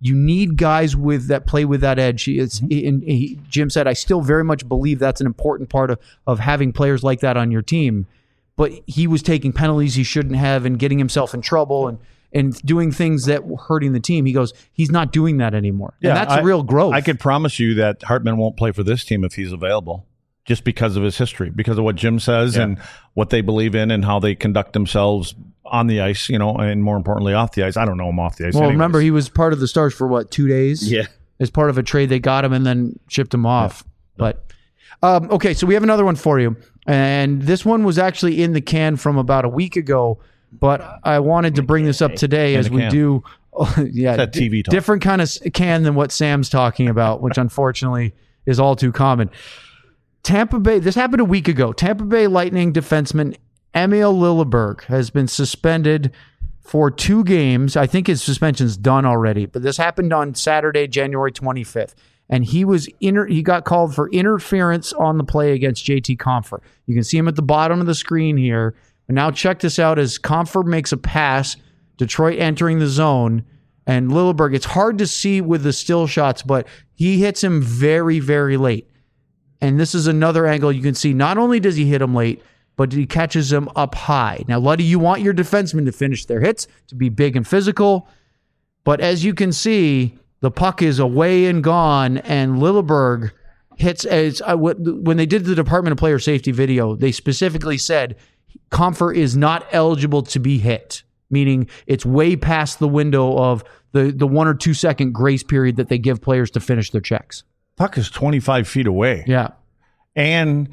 You need guys that play with that edge. Jim said, I still very much believe that's an important part of having players like that on your team. But he was taking penalties he shouldn't have and getting himself in trouble and doing things that were hurting the team. He goes, he's not doing that anymore. And that's real growth. I could promise you that Hartman won't play for this team if he's available, just because of his history, because of what Jim says and what they believe in and how they conduct themselves on the ice, and more importantly, off the ice. I don't know him off the ice. Well, anyways. remember, he was part of the Stars for 2 days? Yeah. As part of a trade, they got him and then shipped him off. Yeah. But okay, so we have another one for you. And this one was actually in the can from about a week ago, but I wanted to bring this up today as we do. That TV talk. Different kind of can than what Sam's talking about, which unfortunately is all too common. Tampa Bay, this happened a week ago. Tampa Bay Lightning defenseman Emil Lilleberg has been suspended for 2 games. I think his suspension's done already, but this happened on Saturday, January 25th. And he got called for interference on the play against JT Compher. You can see him at the bottom of the screen here. And now check this out as Compher makes a pass, Detroit entering the zone, and Lilleberg, it's hard to see with the still shots, but he hits him very, very late. And this is another angle you can see. Not only does he hit him late, but he catches him up high. Now, Luddy, you want your defensemen to finish their hits, to be big and physical. But as you can see, the puck is away and gone, and Lilleberg hits. When they did the Department of Player Safety video, they specifically said Compher is not eligible to be hit, meaning it's way past the window of the 1 or 2 second grace period that they give players to finish their checks. Puck is 25 feet away. Yeah. And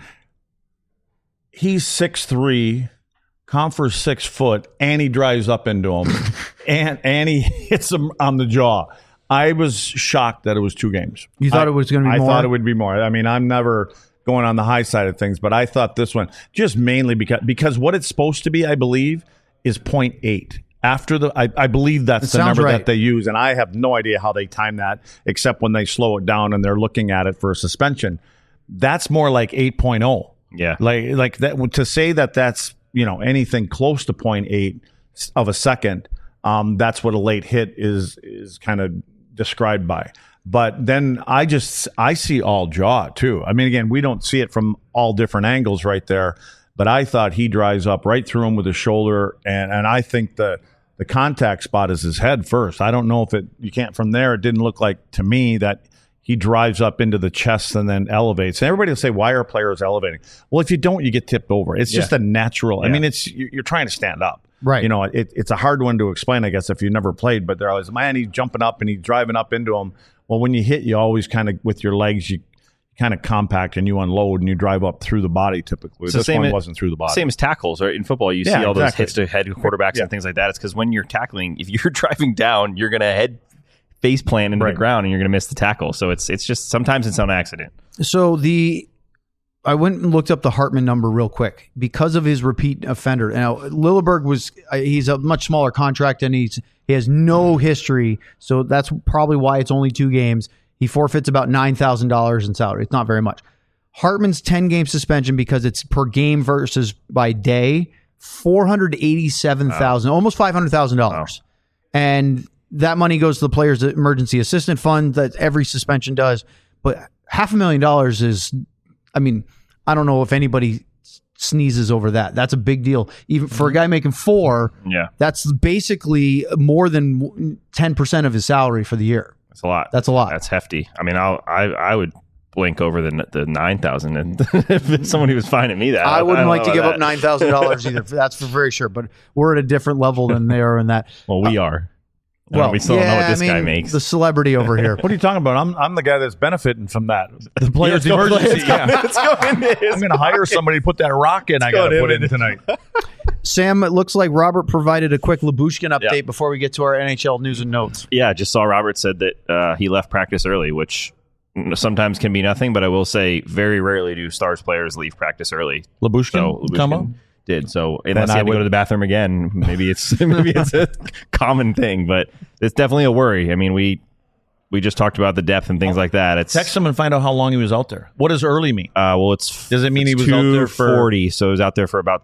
he's 6'3", Compher's 6 foot, and he drives up into him, and he hits him on the jaw. I was shocked that it was 2 games. You thought it was going to be more? I thought it would be more. I mean, I'm never going on the high side of things, but I thought this one, just mainly because what it's supposed to be, I believe, is 0.8. I believe that's the number that they use, and I have no idea how they time that, except when they slow it down and they're looking at it for a suspension. That's more like 8.0. Yeah. Like that, to say that that's, anything close to 0.8 of a second, that's what a late hit is kind of described by. But then I see all jaw too. I mean, again, we don't see it from all different angles right there, but I thought he drives up right through him with his shoulder, and I think the contact spot is his head first. I don't know if you can't from there. It didn't look like to me that he drives up into the chest and then elevates. And everybody will say, why are players elevating? Well, if you don't, you get tipped over. It's just a natural. I mean, you're trying to stand up. Right. It's a hard one to explain, I guess, if you've never played, but they're always, man, he's jumping up and he's driving up into him. Well, when you hit, you always kind of, with your legs, you kind of compact and you unload and you drive up through the body typically. This one wasn't through the body. Same as tackles, right? In football, you see all those hits to head quarterbacks and things like that. It's because when you're tackling, if you're driving down, you're going to head face plant into the ground and you're going to miss the tackle. So it's just sometimes it's on accident. So I went and looked up the Hartman number real quick because of his repeat offender. Now, Lilleberg he's a much smaller contract and he has no history. So that's probably why it's only 2 games. He forfeits about $9,000 in salary. It's not very much. Hartman's 10-game suspension, because it's per game versus by day, $487,000, almost $500,000. Wow. And that money goes to the player's emergency assistant fund that every suspension does. But $500,000 is, I mean, I don't know if anybody sneezes over that. That's a big deal. Even for a guy making $4, that's basically more than 10% of his salary for the year. That's a lot. That's a lot. That's hefty. I mean, I would blink over the 9,000, and if somebody was finding me that, I wouldn't like to give up $9,000 either. That's for very sure. But we're at a different level than they are in that. Well, we are. Well, we still don't know what this guy makes. The celebrity over here. What are you talking about? I'm the guy that's benefiting from that. The player's emergency. Let's go into this. I'm going to hire somebody to put that rock in. I got to put in tonight. Sam, it looks like Robert provided a quick Lyubushkin update before we get to our NHL news and notes. Yeah, just saw Robert said that he left practice early, which sometimes can be nothing, but I will say very rarely do Stars players leave practice early. Lyubushkin come up? Did so unless he had to go to the bathroom again, maybe it's a common thing, but it's definitely a worry. I mean, we just talked about the depth and things like that. Text him and find out how long he was out there. What does early mean? Well, does it mean he was out there for 40? So he was out there for about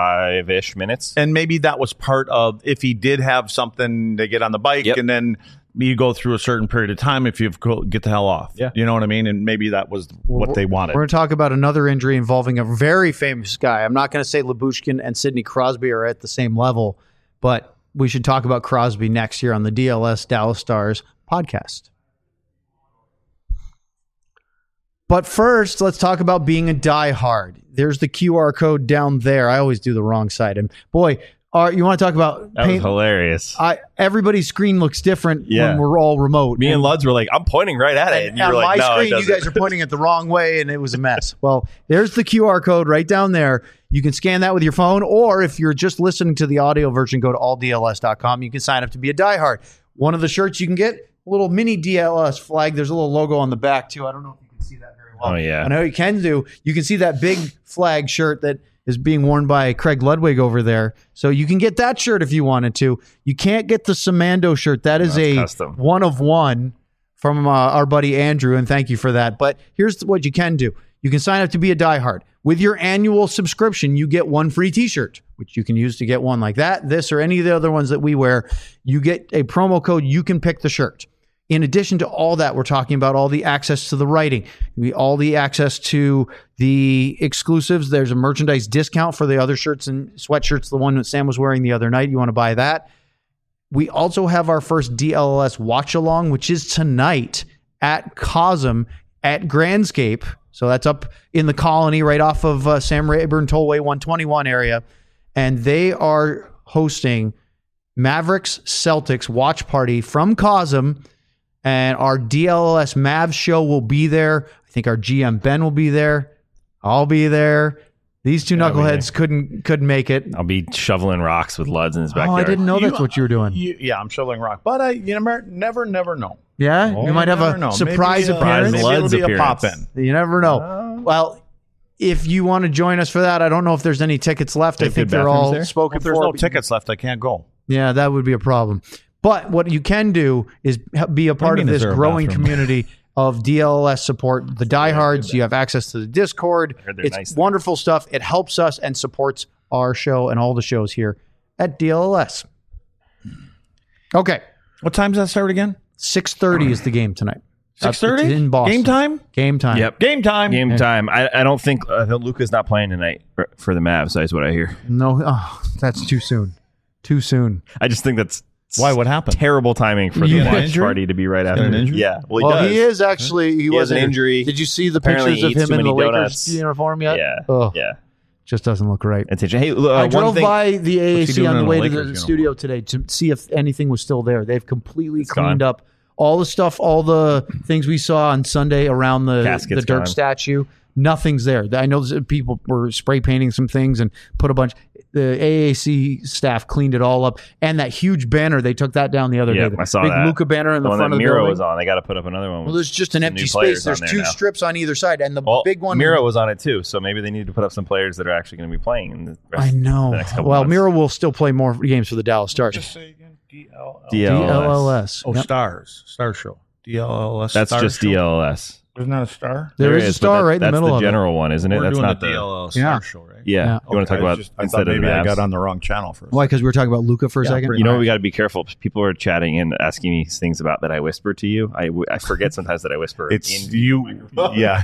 25-ish minutes, and maybe that was part of if he did have something to get on the bike and then you go through a certain period of time if you get the hell off. Yeah. You know what I mean? And maybe that was what they wanted. We're going to talk about another injury involving a very famous guy. I'm not going to say Lyubushkin and Sidney Crosby are at the same level, but we should talk about Crosby next year on the DLS Dallas Stars podcast. But first, let's talk about being a diehard. There's the QR code down there. I always do the wrong side. And boy, you want to talk about That was hilarious. everybody's screen looks different when we're all remote. Me and Luds were like, I'm pointing right at it. And you on were like, my no, screen, you guys are pointing it the wrong way, and it was a mess. Well, there's the QR code right down there. You can scan that with your phone, or if you're just listening to the audio version, go to alldls.com. You can sign up to be a diehard. One of the shirts you can get, a little mini DLS flag. There's a little logo on the back, too. I don't know if you can see that very well. Oh, yeah. I know you can do. You can see that big flag shirt that is being worn by Craig Ludwig over there. So you can get that shirt if you wanted to. You can't get the Samando shirt. That is a custom. one of one from our buddy Andrew, and thank you for that. But here's what you can do. You can sign up to be a diehard. With your annual subscription, you get one free t-shirt, which you can use to get one like that, this, or any of the other ones that we wear. You get a promo code. You can pick the shirt. In addition to all that, we're talking about all the access to the writing, all the access to the exclusives. There's a merchandise discount for the other shirts and sweatshirts, the one that Sam was wearing the other night. You want to buy that? We also have our first DLLS watch along, which is tonight at Cosm at Grandscape. So that's up in the Colony right off of Sam Rayburn Tollway 121 area. And they are hosting Mavericks Celtics watch party from Cosm. And our DLS Mavs show will be there. I think our GM Ben will be there. I'll be there. These two knuckleheads couldn't make it. I'll be shoveling rocks with Luds in his Oh, backyard. I didn't know that's what you were doing. Yeah, I'm shoveling rock. But you never know. Yeah? Oh, You might have never a know. surprise Maybe, appearance. Maybe it'll Lud's be a appearance. pop-in. You never know. Well, if you want to join us for that, I don't know if there's any tickets left. I If think the they're all bathrooms there? spoken If there's for. no tickets left, I can't go. Yeah, that would be a problem. But what you can do is be a part of mean, is this there a growing bathroom? community of DLS support. The diehards, you have access to the Discord. heard they're It's nice there. wonderful stuff. It helps us and supports our show and all the shows here at DLS. Okay, What time does that start again? 6:30 is the game tonight. 6:30? It's in Boston. Game time? Game time. Yep. Game time. Game time. I don't think Luka's not playing tonight for the Mavs. That's what I hear. No, that's too soon. Too soon. I just think that's Why? What happened? terrible timing for Yeah. the watch Injury? party to be right after. an injury? Yeah. Well, Well, does. he is actually. He He was has an injury. Did you see the Apparently pictures of he eats him too in the many Lakers donuts. uniform yet? Yeah. Oh, Yeah. just doesn't look right. It's interesting. Hey, I one drove thing, by the What's he AAC doing on the in a way to Lakers the uniform? studio today to see if anything was still there. They've completely It's cleaned gone. up all the stuff, all the things we saw on Sunday around the Casket's Dirk gone. statue. Nothing's there. I know people were spray painting some things and put a bunch. The AAC staff cleaned it all up, and that huge banner they took that down the other Yeah, day. The I saw big that. Luka banner in the one front that of the Miro building. was on. They got to put up another one. Well, there's just an some empty new space. players There's on there two now. strips on either side, and the Well, big one. Miro was on it too, so maybe they need to put up some players that are actually going to be playing. In the rest I know. The next couple Well, months. Miro will still play more games for the Dallas Stars. say again. DLLS. Oh, Yep. Stars. Star Show. DLLS. That's Star just Show? DLS. Isn't that a star? There is a but star right in the that's middle the of it. general one, isn't it? We're That's doing not the the. DLL Yeah. Star Show, right? Yeah. Yeah. You want to talk about I thought instead of the maybe I Mavs? got on the wrong channel for a Why? Because we were talking about Luka for a Yeah, second. pretty You know, much. we got to be careful. People are chatting and asking me things about that I whisper to you. I forget sometimes that I whisper. It's in you. Yeah.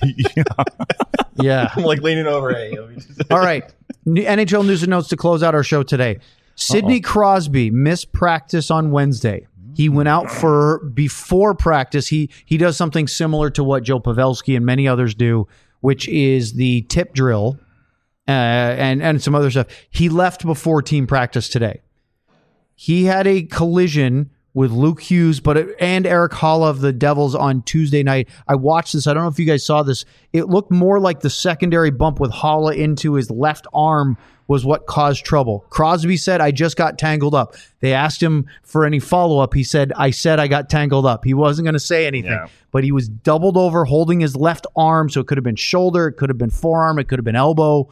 Yeah. I'm like leaning over. Hey, All right. NHL news and notes to close out our show today. Sidney Crosby missed practice on Wednesday. He went out before practice. He does something similar to what Joe Pavelski and many others do, which is the tip drill and some other stuff. He left before team practice today. He had a collision with Luke Hughes and Eric Halla of the Devils on Tuesday night. I watched this. I don't know if you guys saw this. It looked more like the secondary bump with Halla into his left arm was what caused trouble. Crosby said, I just got tangled up. They asked him for any follow-up. He said I got tangled up. He wasn't going to say anything, but he was doubled over holding his left arm, so it could have been shoulder, it could have been forearm, it could have been elbow.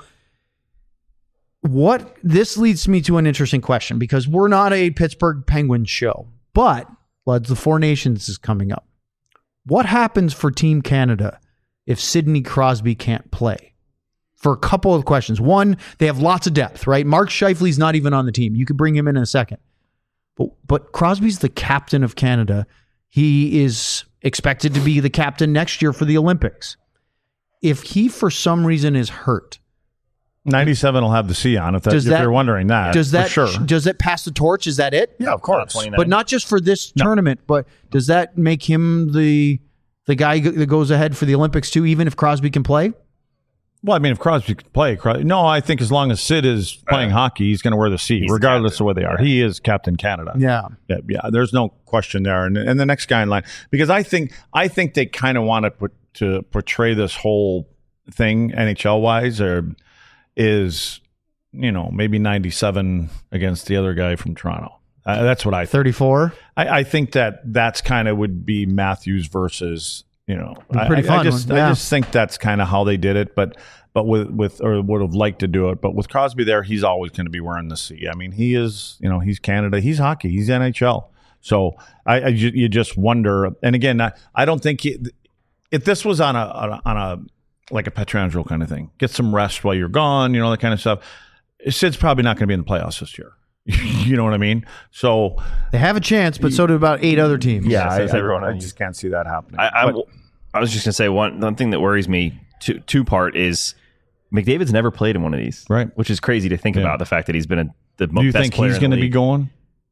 This leads me to an interesting question, because we're not a Pittsburgh Penguins show, but the Four Nations is coming up. What happens for Team Canada if Sidney Crosby can't play? For a couple of questions. One, they have lots of depth, right? Mark Scheifele's not even on the team. You could bring him in a second. But Crosby's the captain of Canada. He is expected to be the captain next year for the Olympics. If he, for some reason, is hurt, 97 will have the C on if you're wondering that. Does that for sure? Does it pass the torch? Is that it? Yeah, of course. But not just for this tournament. But does that make him the guy that goes ahead for the Olympics too, even if Crosby can play? Well, I mean, if Crosby can play, no, I think as long as Sid is playing hockey, he's going to wear the C, regardless of where they are. He is Captain Canada. Yeah. There's no question there. And the next guy in line, because I think they kind of want to portray this whole thing NHL wise, is maybe 97 against the other guy from Toronto. That's what I think. 34. I think that's kind of would be Matthews versus. Pretty fun. I just think that's kind of how they did it, but with or would have liked to do it. But with Crosby there, he's always going to be wearing the C. I mean, he is, he's Canada, he's hockey, he's NHL. So you just wonder. And again, I don't think if this was on a like a Pietrangelo kind of thing, get some rest while you're gone, that kind of stuff. Sid's probably not going to be in the playoffs this year. You know what I mean? So they have a chance, but so do about 8 other teams. Yeah, I just can't see that happening. I was just going to say one thing that worries me, two-part, is McDavid's never played in one of these. Right. Which is crazy to think about, the fact that he's been the best player in the league. Do you think he's going to be going?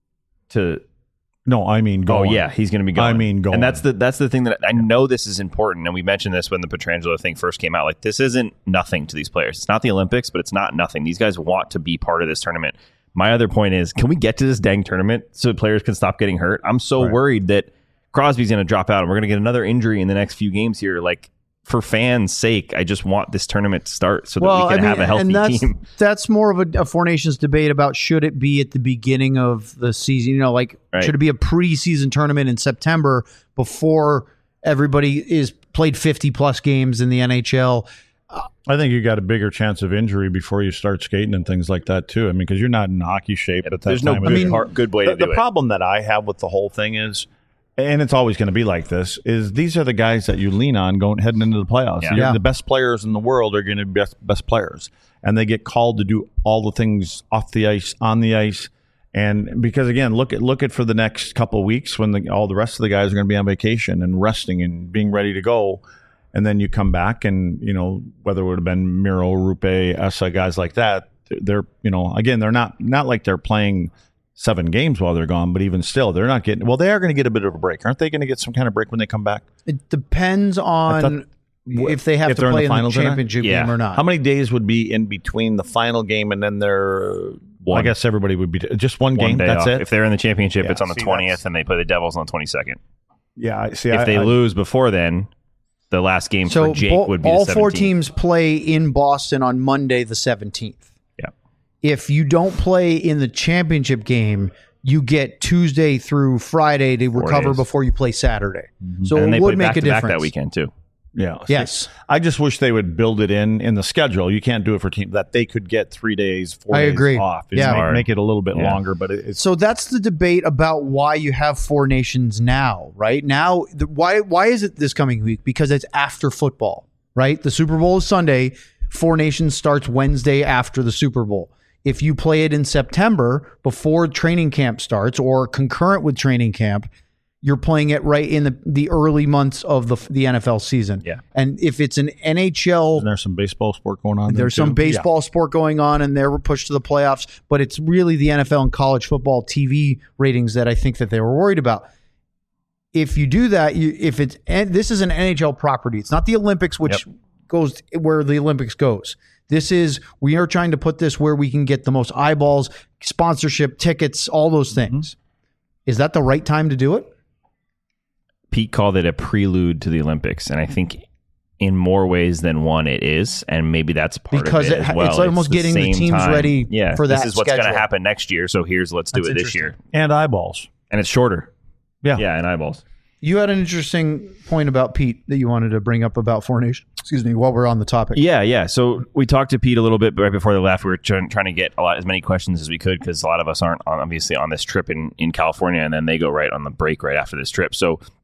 No, I mean going. Oh, yeah, he's going to be going. I mean going. And that's the thing that I know this is important, and we mentioned this when the Pietrangelo thing first came out. Like, this isn't nothing to these players. It's not the Olympics, but it's not nothing. These guys want to be part of this tournament. My other point is, can we get to this dang tournament so players can stop getting hurt? I'm so worried that Crosby's going to drop out and we're going to get another injury in the next few games here. Like, for fans' sake, I just want this tournament to start so that we can have a healthy team. That's more of a Four Nations debate about should it be at the beginning of the season? Should it be a preseason tournament in September before everybody is played 50-plus games in the NHL? I think you got a bigger chance of injury before you start skating and things like that too. I mean, because you're not in hockey shape at that time. There's no good way to do it. The problem that I have with the whole thing is, and it's always going to be like this, is these are the guys that you lean on heading into the playoffs. Yeah. The best players in the world are going to be best players, and they get called to do all the things off the ice, on the ice, and because again, look at for the next couple of weeks when all the rest of the guys are going to be on vacation and resting and being ready to go. And then you come back and, whether it would have been Miro, Rupe, Essa, guys like that, they're, again, they're not like they're playing 7 games while they're gone, but even still, they're not getting, they are going to get a bit of a break. Aren't they going to get some kind of break when they come back? It depends on if they have to play in the championship game or not. How many days would be in between the final game and then I guess everybody would be just one game. That's it. If they're in the championship, it's on the 20th and they play the Devils on the 22nd. Yeah. See, if they lose before then, the last game for Jake would be the 17th. All 4 teams play in Boston on Monday the 17th. Yeah. If you don't play in the championship game, you get Tuesday through Friday to recover before you play Saturday. Mm-hmm. So it would make a difference that weekend too. Yeah. Yes. I just wish they would build it in the schedule. You can't do it for teams that they could get 3 days, 4 days off. Make it a little bit longer, but it's so that's the debate about why you have 4 nations now, right? Now, why is it this coming week? Because it's after football, right? The Super Bowl is Sunday. 4 nations starts Wednesday after the Super Bowl. If you play it in September before training camp starts or concurrent with training camp, you're playing it right in the early months of the NFL season. Yeah. And if it's an NHL... Isn't there some baseball sport going on? There's some baseball sport going on, and they're pushed to the playoffs. But it's really the NFL and college football TV ratings that I think that they were worried about. If you do that, this is an NHL property. It's not the Olympics, which goes where the Olympics goes. We are trying to put this where we can get the most eyeballs, sponsorship, tickets, all those things. Is that the right time to do it? Pete called it a prelude to the Olympics, and I think in more ways than one it is, and maybe that's part of it as well. It's almost getting the teams ready for that. This is what's going to happen next year, so let's do it this year. And eyeballs. And it's shorter. Yeah, and eyeballs. You had an interesting point about Pete that you wanted to bring up about 4 nations. Excuse me, while we're on the topic. Yeah. So we talked to Pete a little bit right before they left. We were trying to get as many questions as we could because a lot of us aren't obviously on this trip in California, and then they go right on the break right after this trip.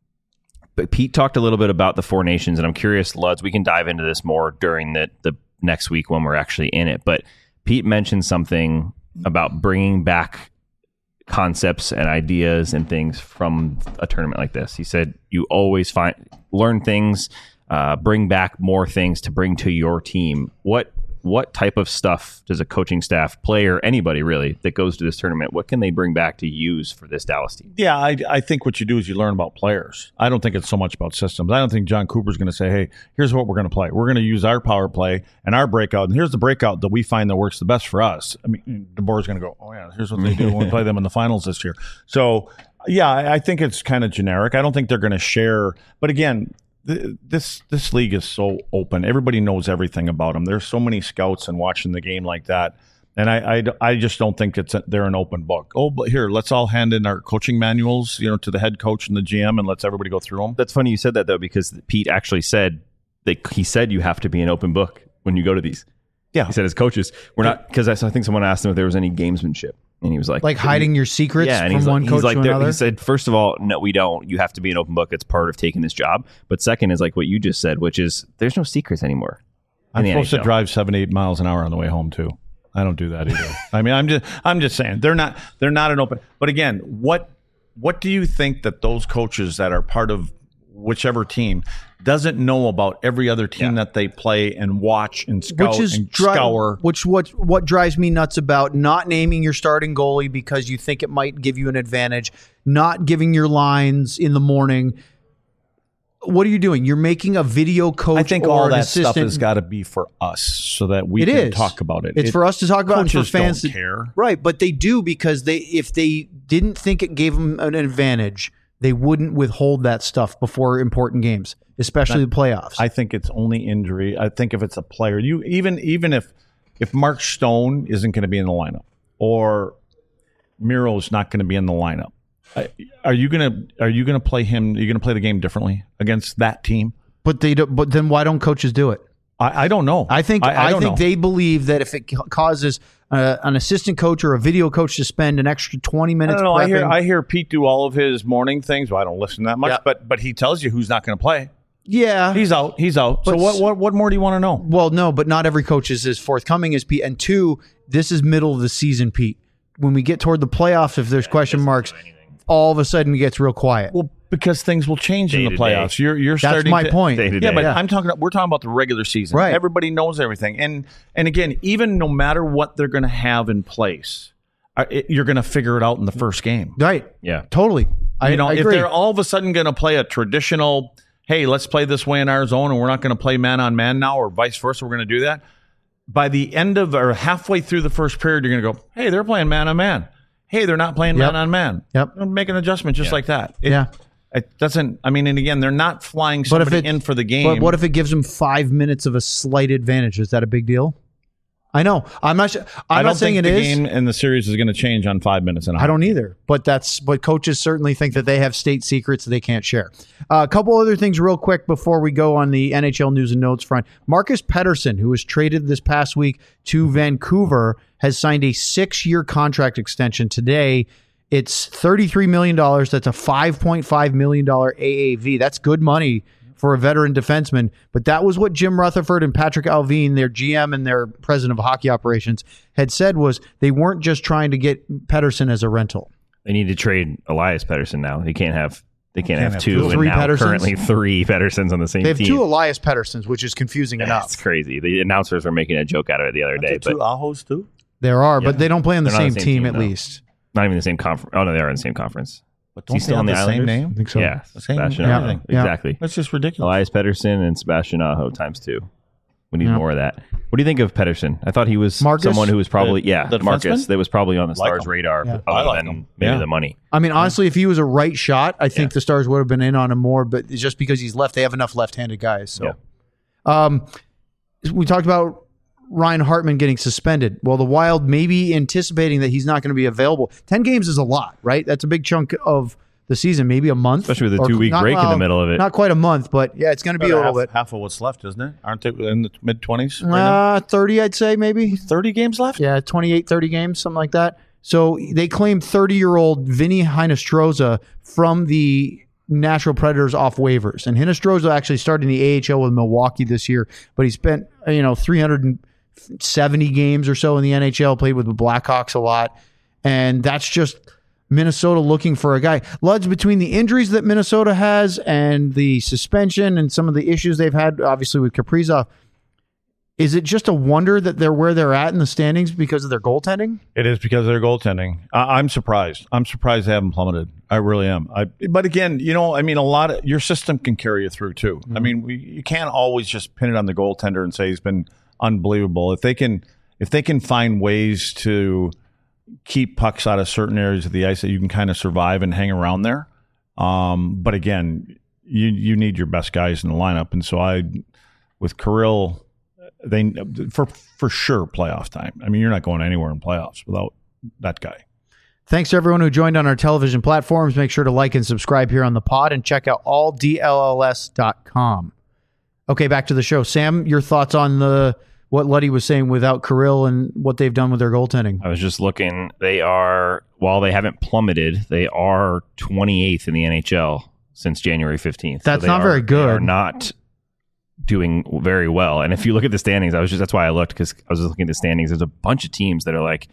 But Pete talked a little bit about the 4 nations, and I'm curious, Luds, we can dive into this more during the next week when we're actually in it. But Pete mentioned something about bringing back concepts and ideas and things from a tournament like this. He said you always learn things, bring back more things to bring to your team. What type of stuff does a coaching staff, player, anybody really that goes to this tournament, what can they bring back to use for this Dallas team? Yeah, I think what you do is you learn about players. I don't think it's so much about systems. I don't think John Cooper's going to say, hey, here's what we're going to play. We're going to use our power play and our breakout, and here's the breakout that we find that works the best for us. I mean, DeBoer's going to go, oh, yeah, here's what they do when we play them in the finals this year. So, yeah, I think it's kind of generic. I don't think they're going to share. But again, this league is so open. Everybody knows everything about them. There's so many scouts and watching the game like that. And I just don't think they're an open book. Oh, but here, let's all hand in our coaching manuals, to the head coach and the GM, and let's everybody go through them. That's funny you said that, though, because Pete actually said he said you have to be an open book when you go to these. Yeah. He said as coaches, we're not, because I think someone asked him if there was any gamesmanship. And he was like hiding your secrets and from one coach to another. He said, first of all, no, we don't. You have to be an open book. It's part of taking this job. But second is like what you just said, which is there's no secrets anymore. I'm supposed to drive 7-8 miles an hour on the way home too. I don't do that either. I mean, I'm just saying they're not an open. But again, what do you think that those coaches that are part of whichever team doesn't know about every other team that they play and watch and scout and scour? What drives me nuts about not naming your starting goalie because you think it might give you an advantage, not giving your lines in the morning. What are you doing? You're making a video coach. I think or all an that assistant. stuff has got to be for us so that we can talk about it. It's for us to talk about and for fans don't care. Right, but they do because if they didn't think it gave them an advantage, they wouldn't withhold that stuff before important games, especially the playoffs. I think it's only injury. I think if it's a player, even if Mark Stone isn't going to be in the lineup or Miro's not going to be in the lineup, are you gonna play him? Are you gonna play the game differently against that team? But then why don't coaches do it? I don't know. I think they believe that if it causes an assistant coach or a video coach to spend an extra 20 minutes. I don't know. I hear Pete do all of his morning things. Well, I don't listen that much, but he tells you who's not going to play. Yeah, he's out. So what more do you want to know? Well, no, but not every coach is as forthcoming as Pete. And two, this is middle of the season, Pete. When we get toward the playoffs, if there's question marks, all of a sudden it gets real quiet. Well, because things will change in the playoffs. You're starting. That's my point. Yeah, but we're talking about the regular season. Right. Everybody knows everything, and again, even no matter what they're going to have in place, you're going to figure it out in the first game. Right. Yeah. Totally. I if agree. they're all of a sudden going to play a traditional, hey, let's play this way in our zone, and we're not going to play man on man now, or vice versa, we're going to do that. By the end of or halfway through the first period, you're going to go, hey, they're playing man on man. Hey, they're not playing man on man. Yep. Make an adjustment just like that. It doesn't. I mean, and again, they're not flying somebody in for the game. But what if it gives them 5 minutes of a slight advantage? Is that a big deal? I know. I'm not saying it is. I don't think the game and the series is going to change on 5 minutes. I don't either. But coaches certainly think that they have state secrets that they can't share. A couple other things real quick before we go on the NHL news and notes front. Marcus Pettersson, who was traded this past week to Vancouver, has signed a 6-year contract extension today. It's $33 million. That's a $5.5 million AAV. That's good money for a veteran defenseman. But that was what Jim Rutherford and Patrick Alvin, their GM and their president of hockey operations, had said was they weren't just trying to get Pettersson as a rental. They need to trade Elias Pettersson now. They can't have two. Three and now Petterssons? Currently 3 Petterssons on the same team. They have 2 Elias Petterssons, which is confusing enough. It's crazy. The announcers were making a joke out of it the other day. But 2 Ahos too? There are, but they don't play on the They're not same team at no. least. Not even the same conference. Oh, no, they are in the same conference. But don't Is he still they on have the the same Islanders? name? I think so. Yeah. The same Sebastian everything. Aho. Exactly. That's just ridiculous. Elias Pettersson and Sebastian Aho times 2. We need more of that. What do you think of Pettersson? I thought he was someone who was probably, the Marcus, defenseman? that was probably on the Stars' him. radar I other like than him. maybe the money. I mean, honestly, if he was a right shot, I think the Stars would have been in on him more, but it's just because he's left, they have enough left-handed guys. So, we talked about Ryan Hartman getting suspended. Well, the Wild may be anticipating that he's not going to be available. 10 games is a lot, right? That's a big chunk of the season, maybe a month. Especially with a 2-week break in the middle of it. Not quite a month, but yeah, it's going to be a little bit. Half of what's left, isn't it? Aren't they in the mid-20s? 30, I'd say, maybe. 30 games left? Yeah, 28, 30 games, something like that. So they claimed 30-year-old Vinny Hinostroza from the Nashville Predators off waivers. And Hinostroza actually started in the AHL with Milwaukee this year, but he spent 370 games or so in the NHL, played with the Blackhawks a lot. And that's just Minnesota looking for a guy. Ludge, between the injuries that Minnesota has and the suspension and some of the issues they've had, obviously with Kaprizov, is it just a wonder that they're where they're at in the standings because of their goaltending? It is because of their goaltending. I'm surprised. I'm surprised they haven't plummeted. I really am. But again, a lot of your system can carry you through too. Mm-hmm. I mean, you can't always just pin it on the goaltender and say he's been unbelievable. If they can find ways to keep pucks out of certain areas of the ice that you can kind of survive and hang around there. But again, you need your best guys in the lineup, and so with Kirill. They for sure playoff time. I mean, you're not going anywhere in playoffs without that guy. Thanks to everyone who joined on our television platforms. Make sure to like and subscribe here on the pod and check out alldlls.com. Okay, back to the show. Sam, your thoughts on what Luddy was saying without Kirill and what they've done with their goaltending? I was just looking. While they haven't plummeted, they are 28th in the NHL since January 15th. That's not very good. They are not doing very well. And if you look at the standings, that's why I looked, because I was just looking at the standings. There's a bunch of teams that are like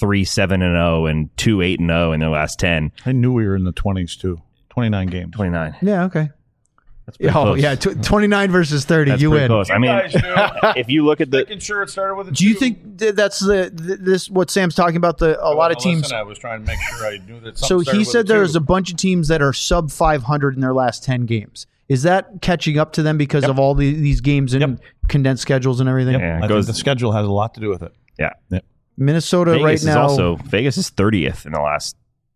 3-7-0 and 2-8-0 in their last 10. I knew we were in the 20s too. 29 games. 29. Yeah, okay. That's pretty close. Yeah, 29 versus 30. That's you pretty win. Close. I mean, if you look at making sure it started with a do you think that's this what Sam's talking about? A lot of teams. I was trying to make sure I knew that. So he said there's a bunch of teams that are sub 500 in their last 10 games. Is that catching up to them because of all these games and condensed schedules and everything? Yeah, I think the schedule has a lot to do with it. Yeah. Minnesota Vegas right now. Vegas is 30th in the last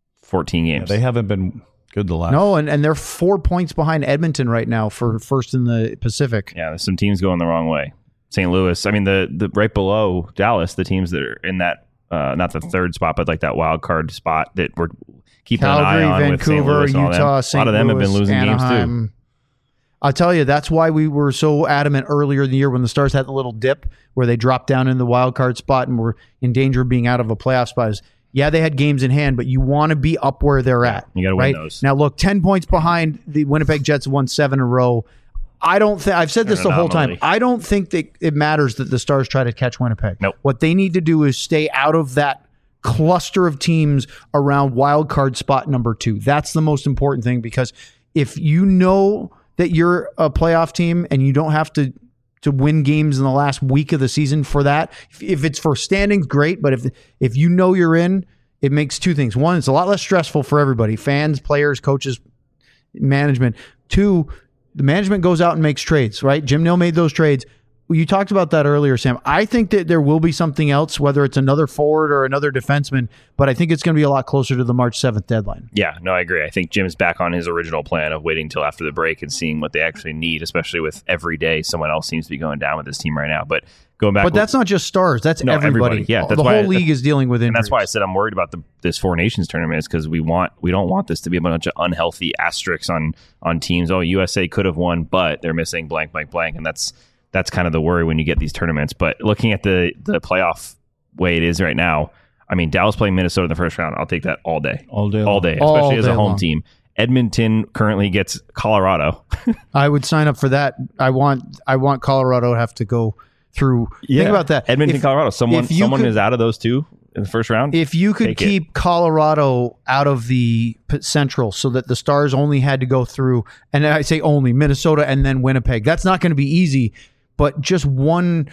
14 games. Yeah, they haven't been good the last. No, and they're 4 points behind Edmonton right now for first in the Pacific. Yeah, there's some teams going the wrong way. St. Louis. I mean, the right below Dallas, the teams that are in that not the third spot, but like that wild card spot that we're keeping Calgary, an eye on Vancouver, with St. Louis, Utah, St. a lot of them have been losing games too. I'll tell you, that's why we were so adamant earlier in the year when the Stars had the little dip where they dropped down in the wild card spot and were in danger of being out of a playoff spot. Yeah, they had games in hand, but you want to be up where they're at. You got to win those. Now, look, 10 points behind. The Winnipeg Jets won 7 in a row. I've said this the whole time. I don't think that it matters that the Stars try to catch Winnipeg. Nope. What they need to do is stay out of that cluster of teams around wild card spot number 2. That's the most important thing, because if you know that you're a playoff team and you don't have to win games in the last week of the season for that. If it's for standings, great. But if you know you're in, it makes two things. One, it's a lot less stressful for everybody, fans, players, coaches, management. Two, the management goes out and makes trades, right? Jim Nill made those trades. Well, you talked about that earlier, Sam. I think that there will be something else, whether it's another forward or another defenseman, but I think it's going to be a lot closer to the March 7th deadline. Yeah, no, I agree. I think Jim's back on his original plan of waiting until after the break and seeing what they actually need, especially with every day someone else seems to be going down with this team right now. But going back, but that's not just Stars. That's everybody. Yeah, that's the whole league is dealing with injuries. And that's why I said I'm worried about this Four Nations tournament, is because we don't want this to be a bunch of unhealthy asterisks on teams. Oh, USA could have won, but they're missing blank, blank, blank, and that's kind of the worry when you get these tournaments. But looking at the playoff way it is right now, I mean, Dallas playing Minnesota in the first round, I'll take that all day, especially as a home team. Edmonton currently gets Colorado. I would sign up for that. I want Colorado to have to go through. Yeah. Think about that. Edmonton, Colorado. Someone is out of those two in the first round. If you could keep Colorado out of the Central so that the Stars only had to go through, and I say only, Minnesota and then Winnipeg, that's not going to be easy. But just one,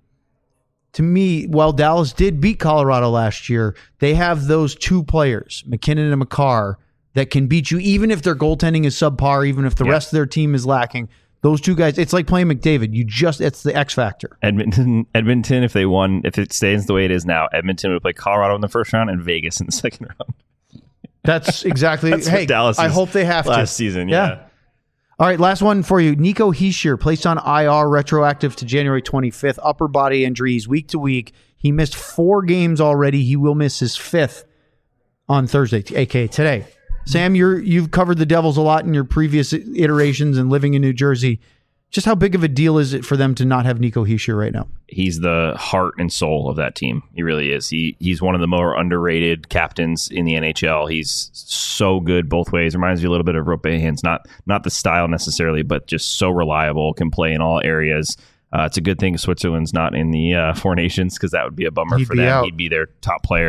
to me, while Dallas did beat Colorado last year, they have those two players, McKinnon and Makar, that can beat you, even if their goaltending is subpar, even if the rest of their team is lacking. Those two guys, it's like playing McDavid. It's the X factor. Edmonton, if it stays the way it is now, Edmonton would play Colorado in the first round and Vegas in the second round. That's exactly. Hey, Dallas. I hope they have last season. Yeah. All right, last one for you. Nico Hischier placed on IR, retroactive to January 25th. Upper body injuries, week to week. He missed 4 games already. He will miss his 5th on Thursday, aka today. Sam, you've covered the Devils a lot in your previous iterations and living in New Jersey. Just how big of a deal is it for them to not have Nico Hischier right now? He's the heart and soul of that team. He really is. He's one of the more underrated captains in the NHL. He's so good both ways. Reminds me a little bit of Roope Hintz. Not the style necessarily, but just so reliable. Can play in all areas. It's a good thing Switzerland's not in the Four Nations, because that would be a bummer for them. He'd be their top player.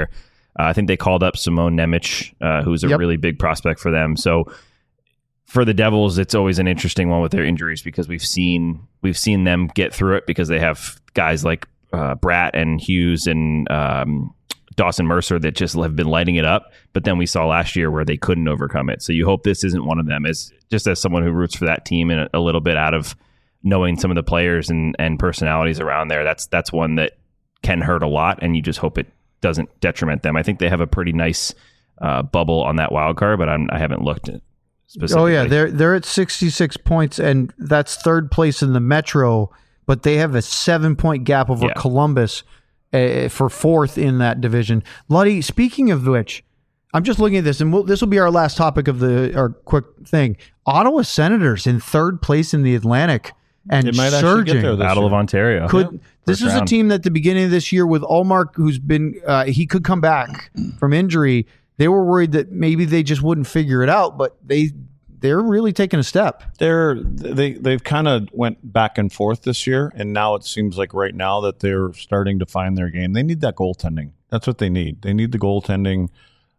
I think they called up Simone Nemec, who's a really big prospect for them. So for the Devils, it's always an interesting one with their injuries because we've seen them get through it because they have guys like Bratt and Hughes and Dawson Mercer that just have been lighting it up. But then we saw last year where they couldn't overcome it. So you hope this isn't one of them. As someone who roots for that team and a little bit out of knowing some of the players and personalities around there, that's one that can hurt a lot, and you just hope it doesn't detriment them. I think they have a pretty nice bubble on that wild card, but I haven't looked at specifically. Oh yeah, they're at 66 points, and that's third place in the Metro, but they have a 7-point gap over Columbus for fourth in that division. Luddy, speaking of which, I'm just looking at this, and this will be our last topic of our quick thing. Ottawa Senators in third place in the Atlantic and surging. Battle of Ontario. This is a team that at the beginning of this year with Ullmark, who's been he could come back from injury. They were worried that maybe they just wouldn't figure it out, but they're really taking a step. They've kind of went back and forth this year, and now it seems like right now that they're starting to find their game. They need that goaltending. That's what they need. They need the goaltending.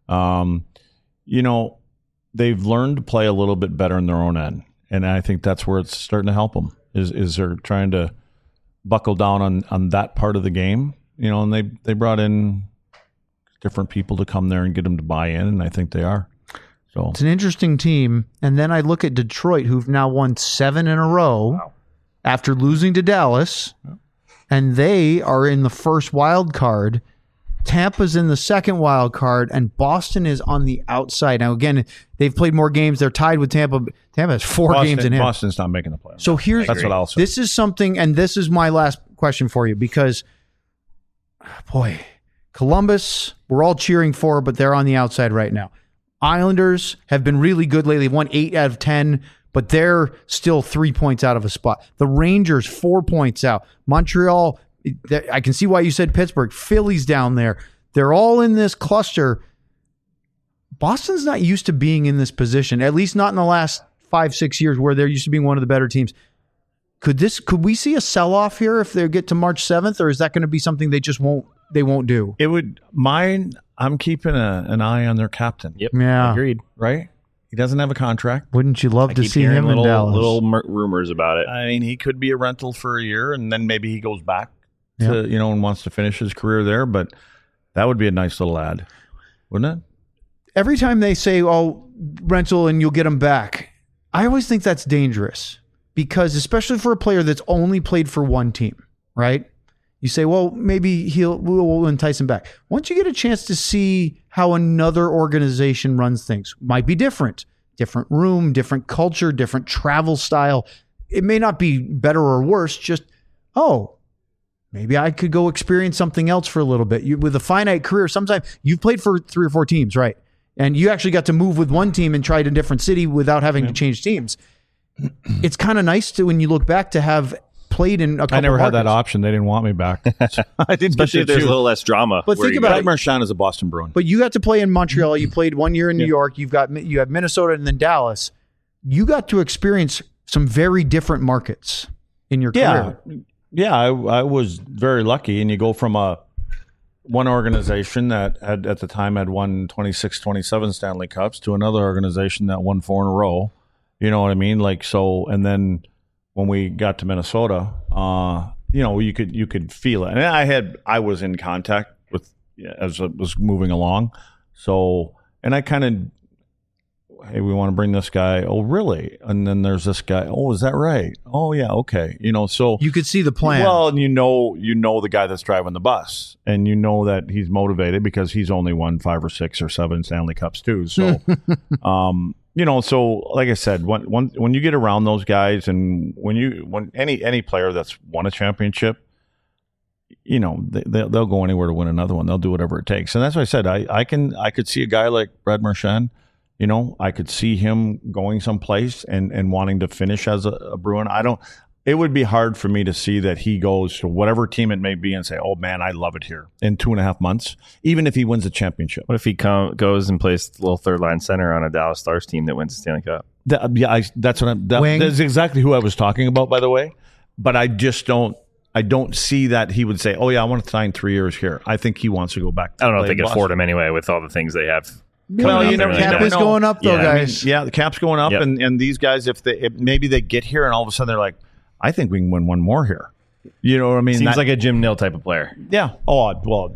They've learned to play a little bit better in their own end, and I think that's where it's starting to help them. Is they're trying to buckle down on that part of the game, and they brought in different people to come there and get them to buy in, and I think they are. So it's an interesting team. And then I look at Detroit, who've now won 7 in a row after losing to Dallas, and they are in the first wild card. Tampa's in the second wild card, and Boston is on the outside. Now, again, they've played more games. They're tied with Tampa. Tampa has 4 games in hand. Boston's not making the playoffs. So that's what I'll say. This is something, and this is my last question for you, because, boy, Columbus, we're all cheering for, but they're on the outside right now. Islanders have been really good lately. They've won 8 out of 10, but they're still 3 points out of a spot. The Rangers, 4 points out. Montreal, I can see why you said Pittsburgh. Philly's down there. They're all in this cluster. Boston's not used to being in this position, at least not in the last 5-6 years where they're used to being one of the better teams. Could we see a sell-off here if they get to March 7th, or is that going to be something they won't do? It would. I'm keeping an eye on their captain. Yep. Yeah. Agreed. Right? He doesn't have a contract. Wouldn't you love to see him in Dallas? Little rumors about it. I mean, he could be a rental for a year, and then maybe he goes back to and wants to finish his career there. But that would be a nice little ad, wouldn't it? Every time they say, "Oh, rental," and you'll get him back, I always think that's dangerous, because especially for a player that's only played for one team, right? You say, well, maybe we'll entice him back. Once you get a chance to see how another organization runs things, might be different room, different culture, different travel style. It may not be better or worse, just, maybe I could go experience something else for a little bit. With a finite career, sometimes you've played for 3 or 4 teams, right? And you actually got to move with one team and try it in a different city without having to change teams. It's kind of nice when you look back to have played in a couple. I never markets. had that option. They didn't want me back. I didn't. Especially if there's a little less drama. But think about it. Marchand is a Boston Bruin. But you got to play in Montreal. You played 1 year in New York. You have Minnesota and then Dallas. You got to experience some very different markets in your career. Yeah, I was very lucky. And you go from one organization that at the time had won 26, 27 Stanley Cups to another organization that won 4 in a row. You know what I mean? And then when we got to Minnesota, you could feel it. And I was in contact with as it was moving along. So, and I kind of, hey, we want to bring this guy. Oh, really? And then there's this guy. Oh, is that right? Oh, yeah. Okay. So you could see the plan. Well, and you know the guy that's driving the bus, and you know that he's motivated because he's only won 5 or 6 or 7 Stanley Cups too. So, so like I said, when you get around those guys, and when any player that's won a championship, they'll go anywhere to win another one. They'll do whatever it takes, and that's why I said I could see a guy like Brad Marchand. I could see him going someplace and wanting to finish as a Bruin. It would be hard for me to see that he goes to whatever team it may be and say, oh, man, I love it here in 2.5 months, even if he wins a championship. What if he goes and plays a little third-line center on a Dallas Stars team that wins the Stanley Cup? That's exactly who I was talking about, by the way. But I just don't I don't see that he would say, "Oh yeah, I want to sign 3 years here." I think he wants to go back. I don't know if play they can Boston. afford him anyway with all the things they have. Well, you never cap is know. going up though, Yeah, I mean, guys. Yeah, the cap's going up, Yep. and these guys, if maybe they get here and all of a sudden they're like, "I think we can win one more here." You know what I mean? Seems like a Jim Nill type of player. Yeah. Oh, well,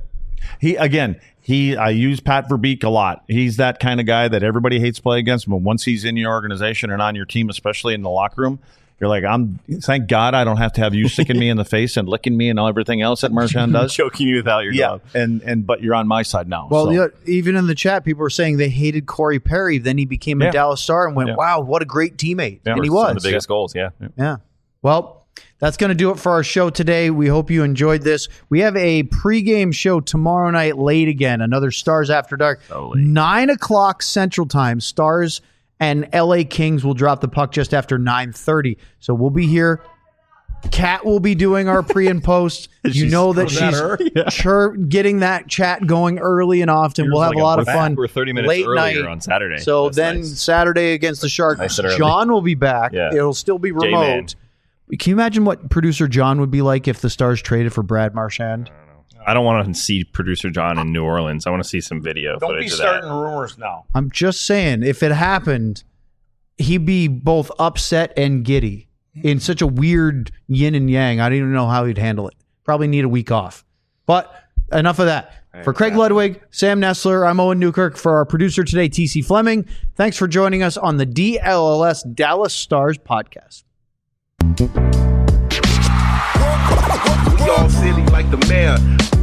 I use Pat Verbeek a lot. He's that kind of guy that everybody hates play against, but once he's in your organization and on your team, especially in the locker room, you're like, thank God I don't have to have you sticking me in the face and licking me and everything else that Marchand does. Choking you without your Yeah, glove. but you're on my side now. Well, so. yeah, even in the chat, people were saying they hated Corey Perry. Then he became a Yeah. Dallas Star and went, Yeah. wow, what a great teammate. Yeah. And he Some of was. the biggest goals, yeah. Yeah. Well, that's going to do it for our show today. We hope you enjoyed this. We have a pregame show tomorrow night late again, another Stars After Dark. So late. 9 o'clock Central Time. Stars and LA Kings will drop the puck just after 9:30. So we'll be here. Kat will be doing our pre and post. You know that she's getting that chat going early and often. We'll have a lot of fun. We're 30 minutes late earlier night. on Saturday. So That's then nice. Saturday against the Sharks, Nice and early. John will be back. Yeah. It'll still be J-Man. remote. Can you imagine what producer John would be like if the Stars traded for Brad Marchand? I don't want to see producer John in New Orleans. I want to see some video Don't footage be of starting that. rumors now. I'm just saying, if it happened, he'd be both upset and giddy in such a weird yin and yang. I don't even know how he'd handle it. Probably need a week off. But enough of that. For Craig Ludwig, Sam Nessler, I'm Owen Newkirk. For our producer today, TC Fleming, thanks for joining us on the DLLS Dallas Stars podcast. We all silly like the mayor.